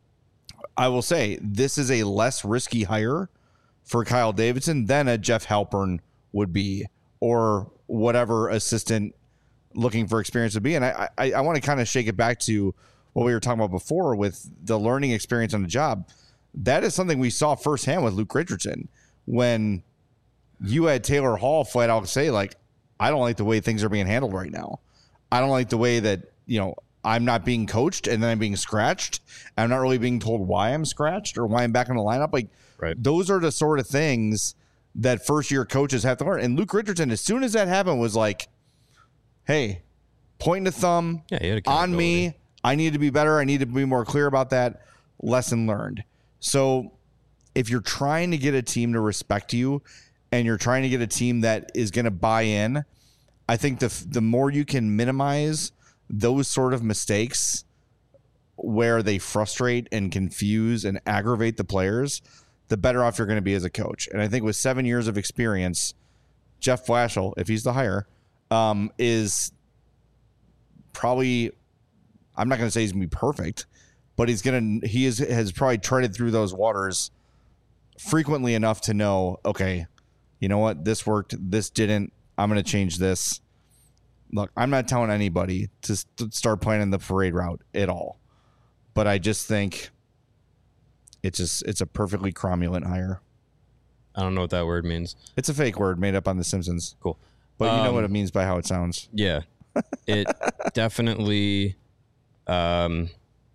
I will say, this is a less risky hire for Kyle Davidson than a Jeff Halpern would be, or whatever assistant looking for experience would be. And I, I, I want to kind of shake it back to what we were talking about before with the learning experience on the job. That is something we saw firsthand with Luke Richardson, when you had Taylor Hall flat out say, like, I don't like the way things are being handled right now. I don't like the way that, you know, I'm not being coached and then I'm being scratched. I'm not really being told why I'm scratched or why I'm back in the lineup. Like, right. Those are the sort of things that first year coaches have to learn. And Luke Richardson, as soon as that happened, was like, hey, pointing the thumb yeah, he had on me. I need to be better. I need to be more clear about that. Lesson learned. So if you're trying to get a team to respect you and you're trying to get a team that is going to buy in, I think the the more you can minimize those sort of mistakes where they frustrate and confuse and aggravate the players, the better off you're going to be as a coach. And I think with seven years of experience, Jeff Blashill, if he's the hire, um, is probably, I'm not going to say he's going to be perfect, but he's going to, he is, has probably treaded through those waters frequently enough to know, okay, you know what? This worked. This didn't. I'm going to change this. Look, I'm not telling anybody to st- start planning the parade route at all, but I just think it's just, it's a perfectly cromulent hire. I don't know what that word means. It's a fake word made up on The Simpsons. Cool. But you um, know what it means by how it sounds. Yeah. It definitely, um,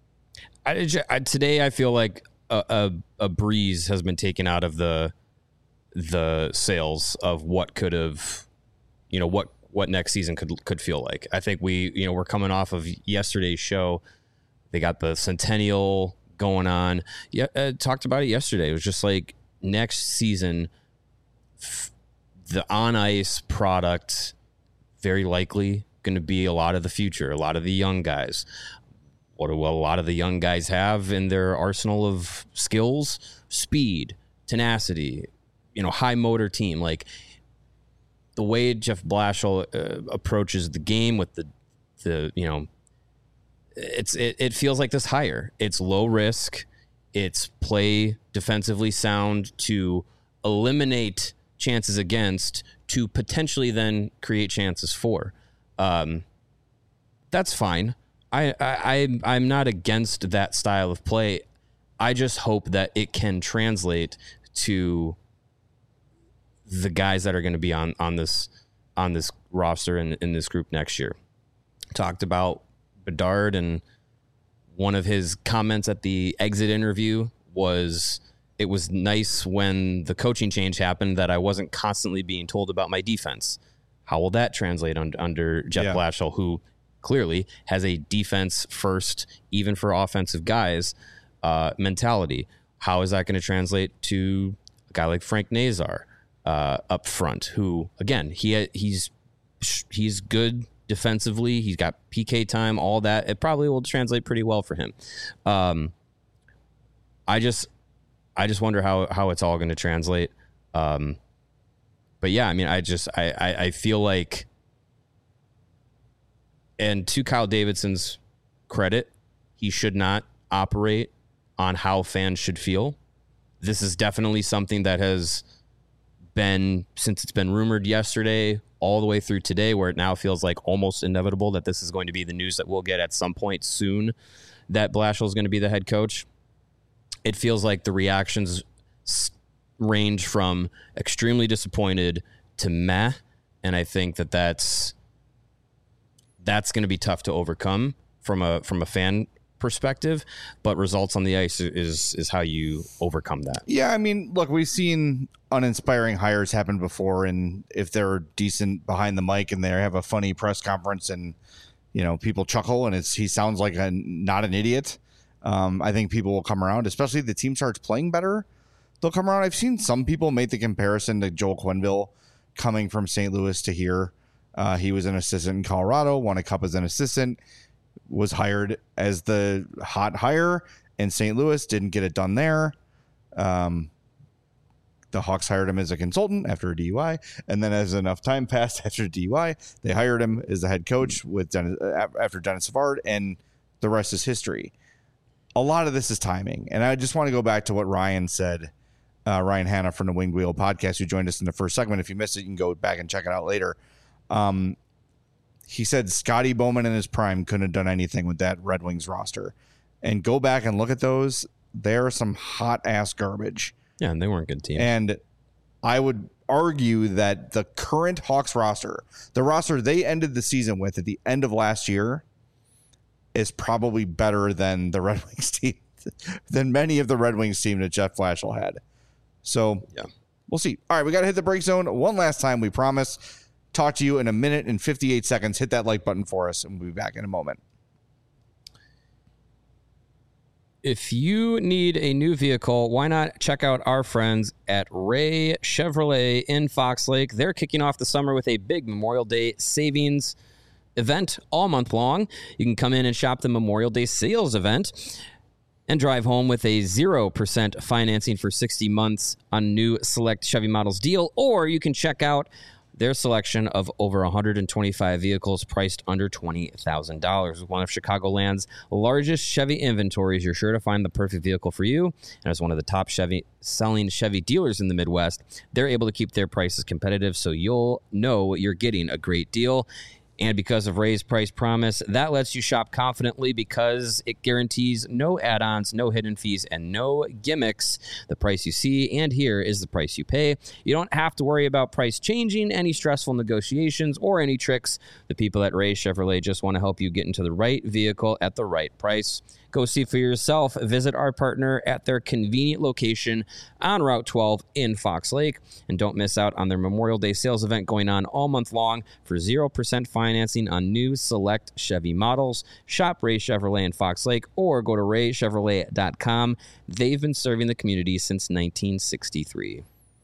I, I, today I feel like a, a, a breeze has been taken out of the, the sails of what could have, you know, what, what next season could, could feel like. I think we, you know, we're coming off of yesterday's show. They got the Centennial going on. Yeah. Uh, talked about it yesterday. It was just like next season, f- the on ice product, very likely going to be a lot of the future, a lot of the young guys. What do a lot of the young guys have in their arsenal of skills? Speed, tenacity, you know, high motor team. Like the way Jeff Blashill uh, approaches the game with the, the, you know, it's, it, it feels like this hire. It's low risk. It's play defensively sound to eliminate chances against, to potentially then create chances for. Um, that's fine. I, I, I'm not against that style of play. I just hope that it can translate to the guys that are going to be on, on this, on this roster and in this group next year. Talked about Bedard, and one of his comments at the exit interview was, it was nice when the coaching change happened that I wasn't constantly being told about my defense. How will that translate un- under Jeff yeah. Blashill, who clearly has a defense first, even for offensive guys, uh, mentality? How is that going to translate to a guy like Frank Nazar uh, up front, who, again, he he's he's good defensively. He's got P K time, all that. It probably will translate pretty well for him. Um, I just, I just wonder how, how it's all going to translate. Um, but yeah, I mean, I just, I, I, I feel like, and to Kyle Davidson's credit, he should not operate on how fans should feel. This is definitely something that has been, since it's been rumored yesterday, all the way through today, where it now feels like almost inevitable that this is going to be the news that we'll get at some point soon, that Blashill is going to be the head coach. It feels like the reactions range from extremely disappointed to meh. And I think that that's, that's going to be tough to overcome from a from a fan perspective, but results on the ice is is how you overcome that. Yeah, I mean, look, we've seen uninspiring hires happen before, and if they're decent behind the mic and they have a funny press conference and, you know, people chuckle and it's he sounds like a not an idiot, um, I think people will come around, especially if the team starts playing better. They'll come around. I've seen some people make the comparison to Joel Quenneville coming from Saint Louis to here. Uh, he was an assistant in Colorado, won a cup as an assistant, was hired as the hot hire in Saint Louis, didn't get it done there. Um, the Hawks hired him as a consultant after a D U I, and then as enough time passed after a D U I, they hired him as the head coach with Dennis, after Dennis Savard, and the rest is history. A lot of this is timing, and I just want to go back to what Ryan said, uh, Ryan Hanna from the Winged Wheel podcast, who joined us in the first segment. If you missed it, you can go back and check it out later. Um, He said Scotty Bowman in his prime couldn't have done anything with that Red Wings roster. And go back and look at those. They're some hot-ass garbage. Yeah, and they weren't good teams. And I would argue that the current Hawks roster, the roster they ended the season with at the end of last year, is probably better than the Red Wings team, than many of the Red Wings team that Jeff Blashill had. So, yeah, we'll see. All right, we got to hit the break zone one last time, we promise. Talk to you in a minute and fifty-eight seconds. Hit that like button for us, and we'll be back in a moment. If you need a new vehicle, why not check out our friends at Ray Chevrolet in Fox Lake? They're kicking off the summer with a big Memorial Day savings event all month long. You can come in and shop the Memorial Day sales event and drive home with a zero percent financing for sixty months on new select Chevy models deal, or you can check out their selection of over one hundred twenty-five vehicles priced under twenty thousand dollars. With one of Chicagoland's largest Chevy inventories, you're sure to find the perfect vehicle for you. And as one of the top Chevy selling Chevy dealers in the Midwest, they're able to keep their prices competitive, so you'll know you're getting a great deal. And because of Ray's price promise, that lets you shop confidently because it guarantees no add-ons, no hidden fees, and no gimmicks. The price you see and hear is the price you pay. You don't have to worry about price changing, any stressful negotiations, or any tricks. The people at Ray Chevrolet just want to help you get into the right vehicle at the right price. Go see for yourself. Visit our partner at their convenient location on Route twelve in Fox Lake. And don't miss out on their Memorial Day sales event going on all month long for zero percent financing on new select Chevy models. Shop Ray Chevrolet in Fox Lake or go to ray chevrolet dot com. They've been serving the community since nineteen sixty-three.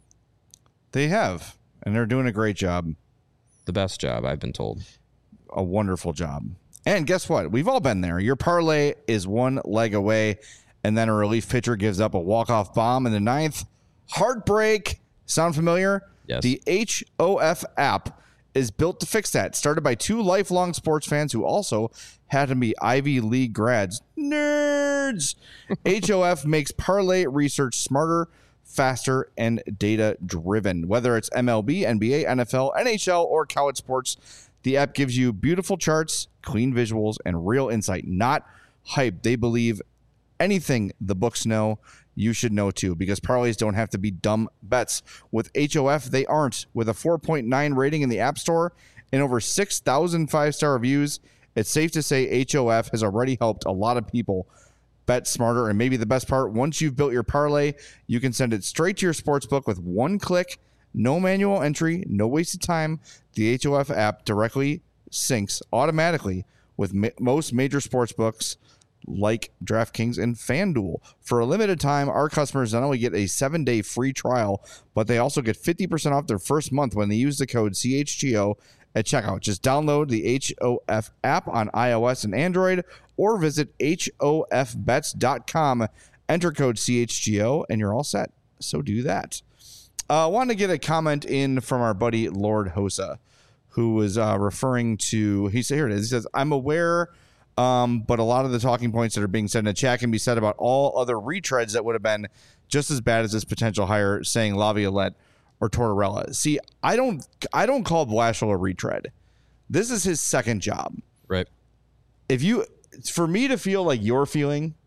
They have, and they're doing a great job. The best job, I've been told. A wonderful job. And guess what? We've all been there. Your parlay is one leg away, and then a relief pitcher gives up a walk-off bomb in the ninth. Heartbreak. Sound familiar? Yes. The H O F app is built to fix that. Started by two lifelong sports fans who also had to be Ivy League grads. Nerds! H O F makes parlay research smarter, faster, and data-driven. Whether it's M L B, N B A, N F L, N H L, or college sports, the app gives you beautiful charts, clean visuals, and real insight, not hype. They believe anything the books know, you should know too, because parlays don't have to be dumb bets. With H O F, they aren't. With a four point nine rating in the App Store and over six thousand five-star reviews, it's safe to say H O F has already helped a lot of people bet smarter. And maybe the best part, once you've built your parlay, you can send it straight to your sportsbook with one click. No manual entry, no wasted time. The H O F app directly syncs automatically with ma- most major sports books like DraftKings and FanDuel. For a limited time, our customers not only get a seven-day free trial, but they also get fifty percent off their first month when they use the code C H G O at checkout. Just download the H O F app on iOS and Android or visit H O F bets dot com. Enter code C H G O and you're all set. So do that. I uh, wanted to get a comment in from our buddy Lord Hosa, who was uh, referring to, he said, here it is. He says, I'm aware, um, but a lot of the talking points that are being said in the chat can be said about all other retreads that would have been just as bad as this potential hire, saying Laviolette or Tortorella. See, I don't, I don't call Blashill a retread. This is his second job. Right. If you, for me to feel like you're feeling,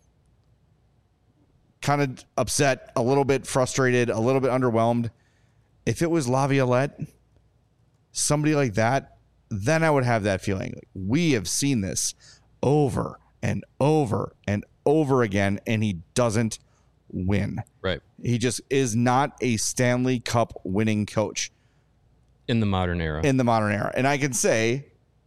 kind of upset, a little bit frustrated, a little bit underwhelmed. If it was Laviolette, somebody like that, then I would have that feeling. Like, we have seen this over and over and over again, and he doesn't win. Right. He just is not a Stanley Cup winning coach in the modern era. In the modern era. And I can say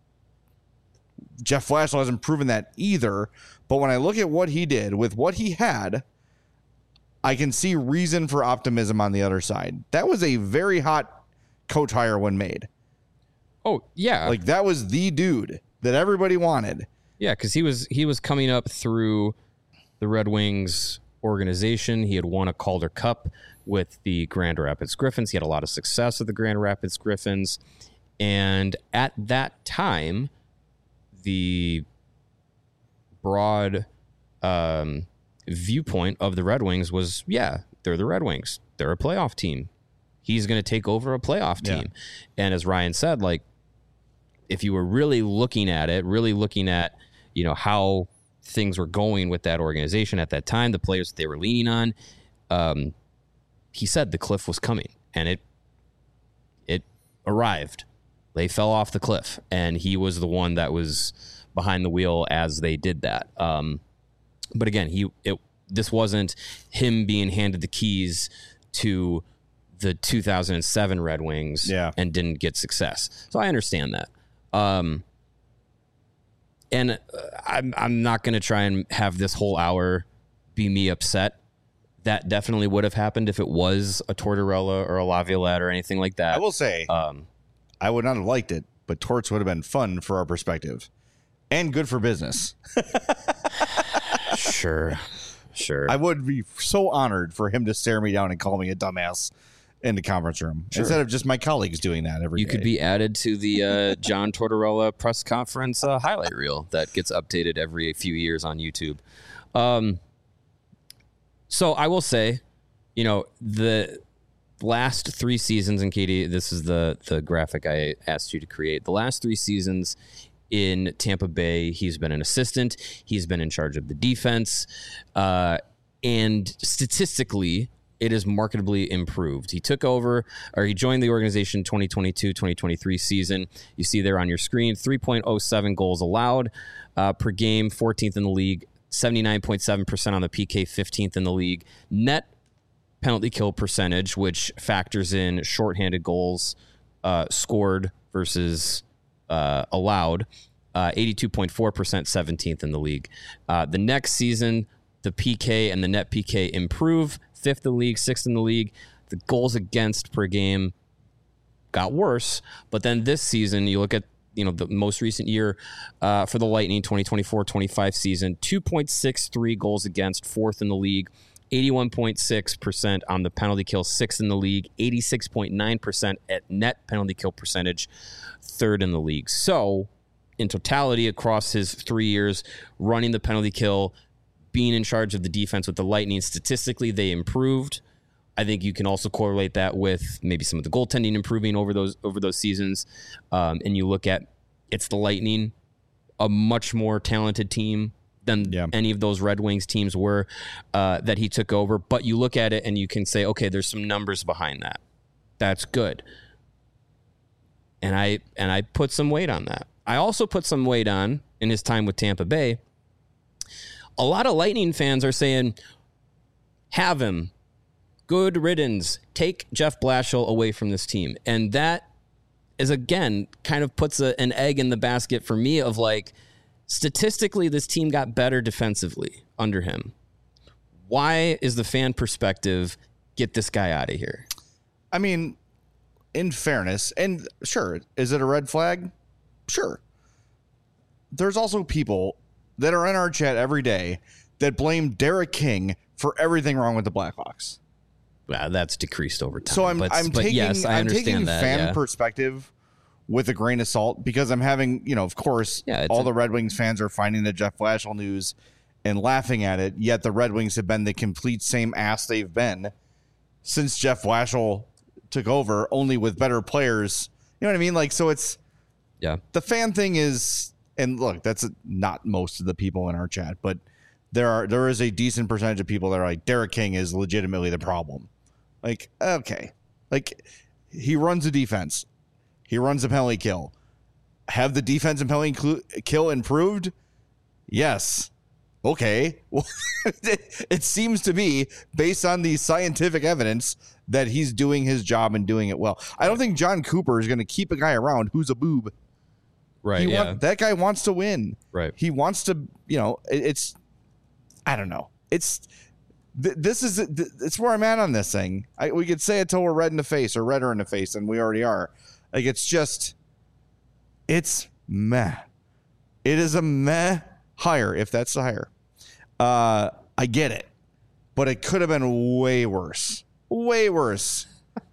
Jeff Blashill hasn't proven that either. But when I look at what he did with what he had, I can see reason for optimism on the other side. That was a very hot coach hire when made. Oh, yeah. Like, that was the dude that everybody wanted. Yeah, because he was he was coming up through the Red Wings organization. He had won a Calder Cup with the Grand Rapids Griffins. He had a lot of success with the Grand Rapids Griffins. And at that time, the broad um, viewpoint of the Red Wings was, yeah, they're the Red Wings. They're a playoff team. He's going to take over a playoff team. Yeah. And as Ryan said, like, if you were really looking at it, really looking at, you know, how things were going with that organization at that time, the players that they were leaning on, um, he said the cliff was coming, and it it arrived. They fell off the cliff, and he was the one that was behind the wheel as they did that. Um, but again, he it this wasn't him being handed the keys to the two thousand seven Red Wings yeah. and didn't get success. So I understand that. Um, and uh, I'm I'm not going to try and have this whole hour be me upset. That definitely would have happened if it was a Tortorella or a Laviolette or anything like that. I will say, um, I would not have liked it, but Torts would have been fun for our perspective and good for business. Sure, sure. I would be so honored for him to stare me down and call me a dumbass in the conference room sure. instead of just my colleagues doing that every you day. Could be added to the uh, John Tortorella press conference uh, highlight reel that gets updated every few years on YouTube. Um, so I will say, you know, the last three seasons, and Katie, this is the the graphic I asked you to create. The last three seasons in Tampa Bay, he's been an assistant. He's been in charge of the defense. Uh, and statistically, it is markedly improved. He took over, or he joined the organization twenty twenty-two twenty twenty-three season. You see there on your screen, three point oh seven goals allowed uh, per game, fourteenth in the league, seventy-nine point seven percent on the P K, fifteenth in the league. Net penalty kill percentage, which factors in shorthanded goals uh, scored versus uh, allowed, uh, eighty-two point four percent, seventeenth in the league. Uh, the next season, the P K and the net P K improve, fifth in the league, sixth in the league. The goals against per game got worse, but then this season, you look at, you know, the most recent year uh, for the Lightning, twenty twenty-four twenty-five season, two point six three goals against, fourth in the league, eighty-one point six percent on the penalty kill, sixth in the league, eighty-six point nine percent at net penalty kill percentage, third in the league. So in totality, across his three years running the penalty kill, being in charge of the defense with the Lightning, statistically, they improved. I think you can also correlate that with maybe some of the goaltending improving over those over those seasons. Um, and you look at, it's the Lightning, a much more talented team than yeah. any of those Red Wings teams were uh, that he took over. But you look at it and you can say, okay, there's some numbers behind that. That's good. And I and I put some weight on that. I also put some weight on, in his time with Tampa Bay, a lot of Lightning fans are saying, have him. Good riddance. Take Jeff Blashill away from this team. And that is, again, kind of puts a, an egg in the basket for me of, like, statistically, this team got better defensively under him. Why is the fan perspective, get this guy out of here? I mean, in fairness, and sure, is it a red flag? Sure. There's also people that are in our chat every day that blame Derek King for everything wrong with the Blackhawks. Well, that's decreased over time. So I'm but, I'm but taking yes, I I'm taking that, fan yeah. perspective with a grain of salt, because I'm having, you know, of course, yeah, all a, the Red Wings fans are finding the Jeff Blashill news and laughing at it, yet the Red Wings have been the complete same ass they've been since Jeff Blashill took over, only with better players. You know what I mean? Like, so it's yeah. The fan thing is, and look, that's not most of the people in our chat, but there are there is a decent percentage of people that are like, Derek King is legitimately the problem. Like, okay, like, he runs a defense, he runs a penalty kill. Have the defense and penalty cl- kill improved? Yes. Okay. Well, it, it seems to be, based on the scientific evidence, that he's doing his job and doing it well. I don't think John Cooper is going to keep a guy around who's a boob. Right. He yeah. want, that guy wants to win. Right. He wants to, you know, it, it's, I don't know. It's, th- this is, th- it's where I'm at on this thing. I, we could say it till we're red in the face or redder in the face, and we already are. Like, it's just, it's meh. It is a meh hire, if that's the hire. Uh, I get it, but it could have been way worse. Way worse.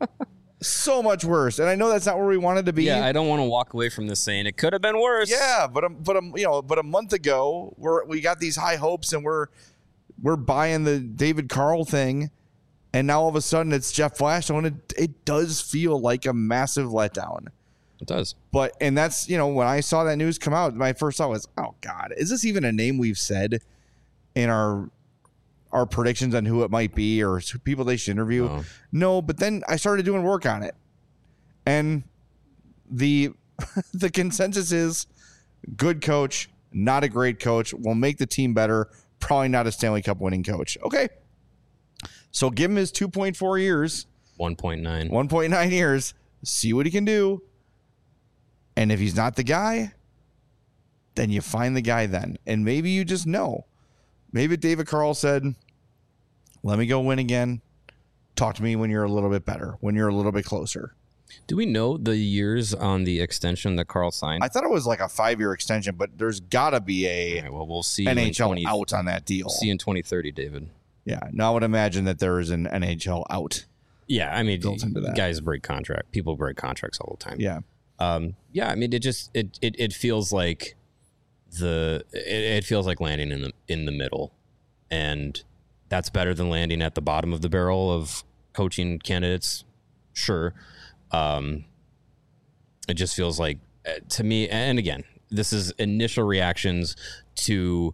So much worse. And I know that's not where we wanted to be. Yeah, I don't want to walk away from this saying it could have been worse. Yeah, but um, but um, you know, but a month ago, we're we got these high hopes, and we're we're buying the David Carl thing, and now all of a sudden it's Jeff Blashill, and it it does feel like a massive letdown. It does. But and that's, you know, when I saw that news come out, my first thought was, oh God, is this even a name we've said in our our predictions on who it might be or people they should interview? No. No, but then I started doing work on it, and the the consensus is good coach, not a great coach, will make the team better, probably not a Stanley Cup winning coach. Okay, so give him his two point four years, one point nine, one point nine years, see what he can do, and if he's not the guy, then you find the guy then, and maybe you just know. Maybe David Carl said, let me go win again. Talk to me when you're a little bit better, when you're a little bit closer. Do we know the years on the extension that Carl signed? I thought it was like a five-year extension, but there's got to be a All right, well, we'll see N H L in twenty, out on that deal. We'll see in twenty thirty, David. Yeah, no, I would imagine that there is an N H L out. Yeah, I mean, Built into that. guys break contract. People break contracts all the time. Yeah. Um, yeah, I mean, it just it it, it feels like the it, it feels like landing in the in the middle, and that's better than landing at the bottom of the barrel of coaching candidates. Sure. Um, it just feels like, uh, to me, and again, this is initial reactions to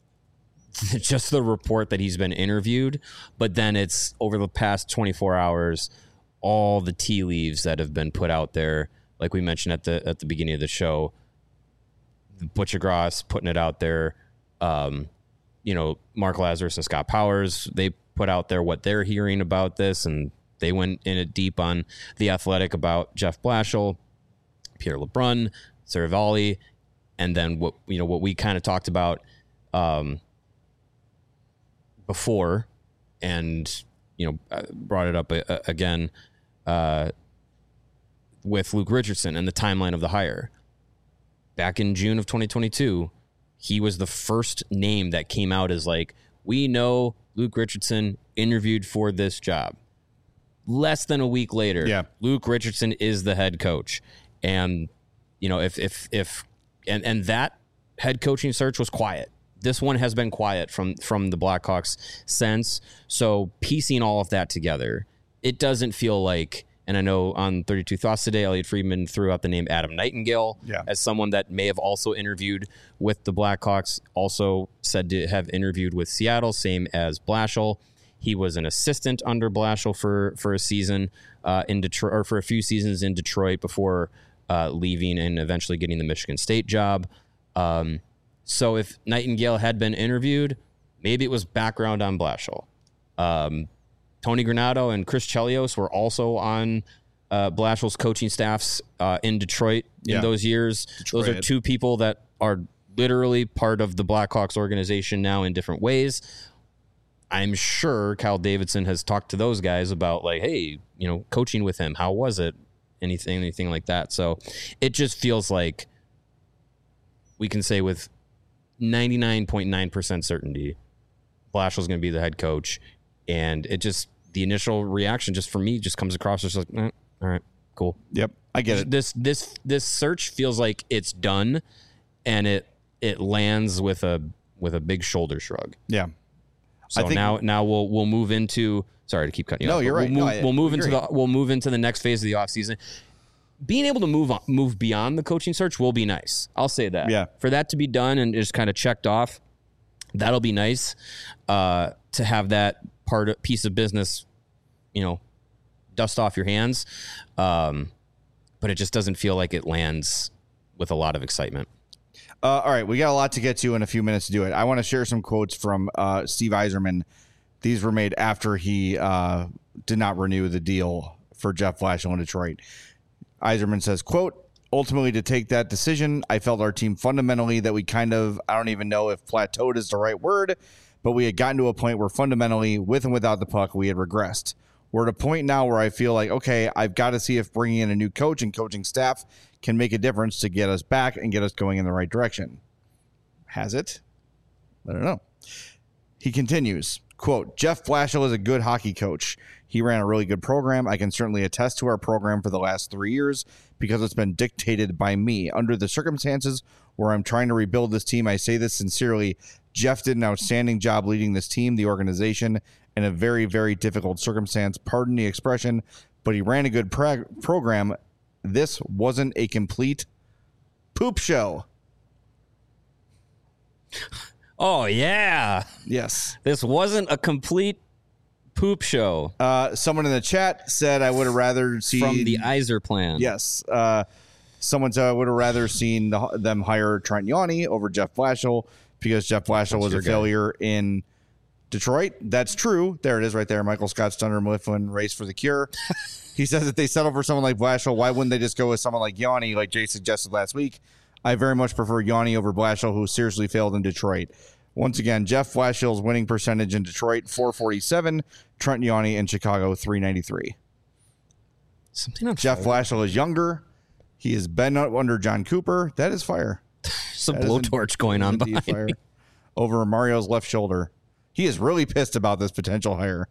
just the report that he's been interviewed, but then it's over the past twenty-four hours, all the tea leaves that have been put out there, like we mentioned at the at the beginning of the show. Butcher Gross putting it out there, um, you know, Mark Lazarus and Scott Powers, they put out there what they're hearing about this, and they went in it deep on The Athletic about Jeff Blashill, Pierre LeBrun, Saravalli, and then what you know what we kind of talked about um, before, and you know uh, brought it up uh, again uh, with Luke Richardson and the timeline of the hire. Back in June of twenty twenty-two, he was the first name that came out as like, we know Luke Richardson interviewed for this job. Less than a week later, yeah. Luke Richardson is the head coach. And, you know, if, if, if, and, and that head coaching search was quiet. This one has been quiet from, from the Blackhawks since. So piecing all of that together, it doesn't feel like, and I know on thirty-two Thoughts today, Elliot Friedman threw out the name Adam Nightingale yeah. as someone that may have also interviewed with the Blackhawks, also said to have interviewed with Seattle, same as Blashill. He was an assistant under Blashill for, for a season uh, in Detroit, or for a few seasons in Detroit before uh, leaving and eventually getting the Michigan State job. Um, so if Nightingale had been interviewed, maybe it was background on Blashill. Um, Tony Granato and Chris Chelios were also on uh, Blashill's coaching staffs uh, in Detroit in yeah. those years. Detroit. Those are two people that are literally part of the Blackhawks organization now in different ways. I'm sure Kyle Davidson has talked to those guys about like, hey, you know, coaching with him, how was it? Anything, anything like that. So it just feels like we can say with ninety-nine point nine percent certainty, Blashill's going to be the head coach. And it just, the initial reaction just for me just comes across as like, eh, all right, cool. Yep, I get it. This this this search feels like it's done, and it it lands with a with a big shoulder shrug. Yeah. So I think, now now we'll we'll move into sorry to keep cutting you no, off. you're We'll right. move, No, I we'll move into agree. the we'll move into the next phase of the offseason. Being able to move on, move beyond the coaching search will be nice. I'll say that. Yeah. For that to be done and just kind of checked off, that'll be nice. Uh, to have that part of, piece of business, you know, dust off your hands. Um, but it just doesn't feel like it lands with a lot of excitement. Uh, all right, we got a lot to get to in a few minutes to do it. I want to share some quotes from uh, Steve Yzerman. These were made after he uh, did not renew the deal for Jeff Blashill in Detroit. Yzerman says, quote, ultimately to take that decision, I felt our team fundamentally that we kind of, I don't even know if plateaued is the right word, but we had gotten to a point where fundamentally, with and without the puck, we had regressed. We're at a point now where I feel like, okay, I've got to see if bringing in a new coach and coaching staff can make a difference to get us back and get us going in the right direction. Has it? I don't know. He continues, quote, Jeff Blashill is a good hockey coach. He ran a really good program. I can certainly attest to our program for the last three years because it's been dictated by me. Under the circumstances where I'm trying to rebuild this team, I say this sincerely. Jeff did an outstanding job leading this team, the organization, in a very, very difficult circumstance. Pardon the expression, but he ran a good pro- program. This wasn't a complete poop show. Oh, yeah. Yes. This wasn't a complete poop show. Uh, someone in the chat said I would have rather seen... From the Yzer plan. Yes. Uh, someone said I would have rather seen the, them hire Trent Yawney over Jeff Blashill because Jeff Blashill That's was a your guy. failure in Detroit. That's true. There it is right there. Michael Scott, Stunner Mifflin, Race for the Cure. He says if they settle for someone like Blashill, why wouldn't they just go with someone like Yawney, like Jay suggested last week? I very much prefer Yawney over Blashill, who seriously failed in Detroit. Once again, Jeff Blashill's winning percentage in Detroit, four forty-seven. Trent Yawney in Chicago, three ninety-three. Something on Jeff fire. Blashill is younger. He has been under John Cooper. That is fire. There's a That is blowtorch in- going that is on indeed behind fire. me. Over Mario's left shoulder. He is really pissed about this potential hire.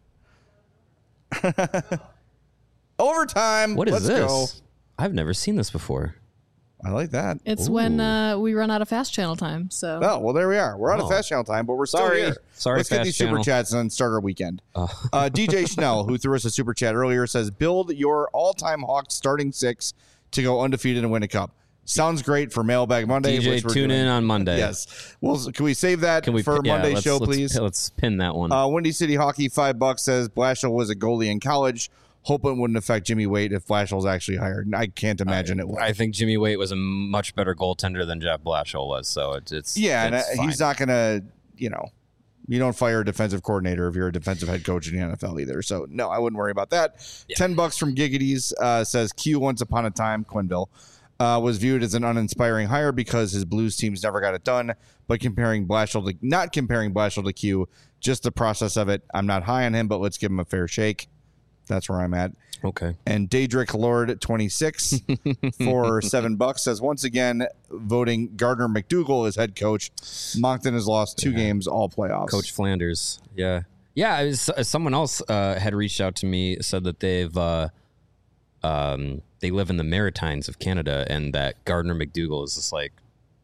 Overtime. What is Let's this? go. I've never seen this before. I like that. It's Ooh. when uh, we run out of fast channel time. So Oh, well, there we are. We're out of Oh. fast channel time, but we're still Sorry. here. Sorry, Let's get Fast these super Channel. chats and then start our weekend. Oh. Uh, D J Schnell, who threw us a super chat earlier, says, build your all-time Hawks starting six to go undefeated and win a cup. Sounds great for Mailbag Monday. D J, which we're tune doing. in on Monday. Yes. Well, can we save that Can we for pin- yeah, Monday's let's- show, let's please? pin- Let's pin that one. Uh, Windy City Hockey, five bucks, says Blashill was a goalie in college. Hope it wouldn't affect Jimmy Waite if Blashill's actually hired. I can't imagine it would. I think Jimmy Waite was a much better goaltender than Jeff Blashill was. So it's, it's yeah, and uh, it's he's fine. not going to, you know, you don't fire a defensive coordinator if you're a defensive head coach in the N F L either. So, no, I wouldn't worry about that. Yeah. ten bucks from Giggities uh, says Q once upon a time, Quinville, uh, was viewed as an uninspiring hire because his Blues teams never got it done. But comparing Blashill to, not comparing Blashill to Q, just the process of it. I'm not high on him, but let's give him a fair shake. That's where I'm at. Okay. And Daedric Lord twenty-six for seven bucks says once again voting Gardner McDougall as head coach. Moncton has lost two Yeah. games all playoffs. Coach Flanders. Yeah. Yeah. It was, uh, someone else uh, had reached out to me, said that they've, uh, um, they live in the Maritimes of Canada and that Gardner McDougall is just like,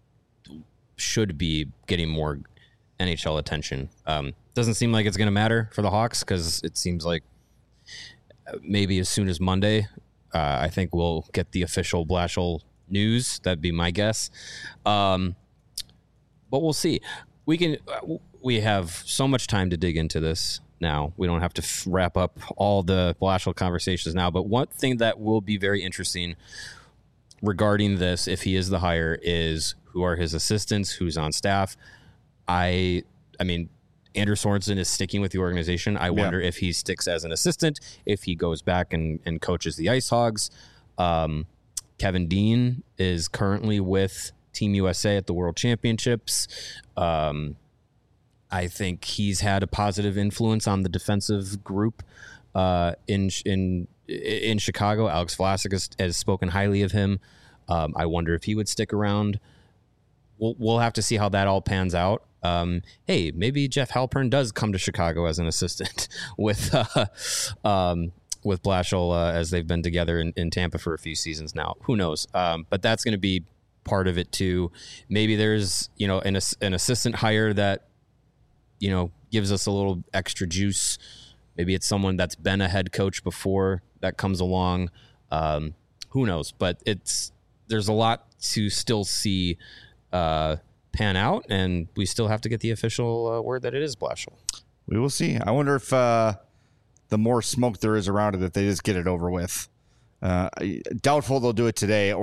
should be getting more N H L attention. Um, doesn't seem like it's going to matter for the Hawks because it seems like maybe as soon as Monday, uh, I think we'll get the official Blashill news. That'd be my guess. Um, but we'll see. We can. Uh, we have so much time to dig into this now. We don't have to f- wrap up all the Blashill conversations now. But one thing that will be very interesting regarding this, if he is the hire, is who are his assistants, who's on staff. I, I mean. Andrew Sorensen is sticking with the organization. I wonder if he sticks as an assistant, if he goes back and, and coaches the Ice Hogs. Um, Kevin Dean is currently with Team U S A at the World Championships. Um, I think he's had a positive influence on the defensive group uh, in in in Chicago. Alex Vlasic has, has spoken highly of him. Um, I wonder if he would stick around. We'll, we'll have to see how that all pans out. Um, hey, maybe Jeff Halpern does come to Chicago as an assistant with uh, um, with Blashill uh, as they've been together in, in Tampa for a few seasons now. Who knows? Um, but that's going to be part of it too. Maybe there's you know an an assistant hire that you know gives us a little extra juice. Maybe it's someone that's been a head coach before that comes along. Um, who knows? But it's there's a lot to still see. Uh, pan out, and we still have to get the official uh, word that it is Blashill. We will see. I wonder if uh, the more smoke there is around it, if they just get it over with. Uh, doubtful they'll do it today, or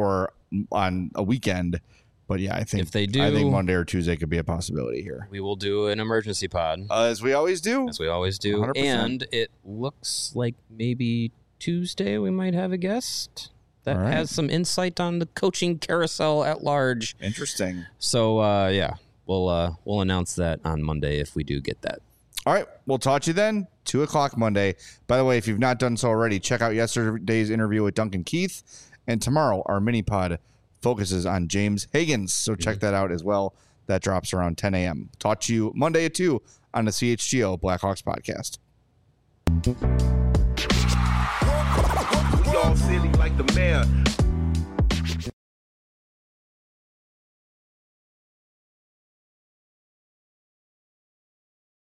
on a weekend. But yeah, I think If they do- I think Monday or Tuesday could be a possibility here, We will do an emergency pod, uh, as we always do. as we always do. one hundred percent. And it looks like maybe Tuesday we might have a guest that All right. has some insight on the coaching carousel at large. Interesting. So uh, yeah, we'll uh, we'll announce that on Monday if we do get that. All right, we'll talk to you then. Two o'clock Monday. By the way, if you've not done so already, check out yesterday's interview with Duncan Keith, and tomorrow our mini pod focuses on James Higgins. So check that out as well. That drops around ten a.m. Talk to you Monday at two on the C H G O Blackhawks podcast. We all silly like the mayor.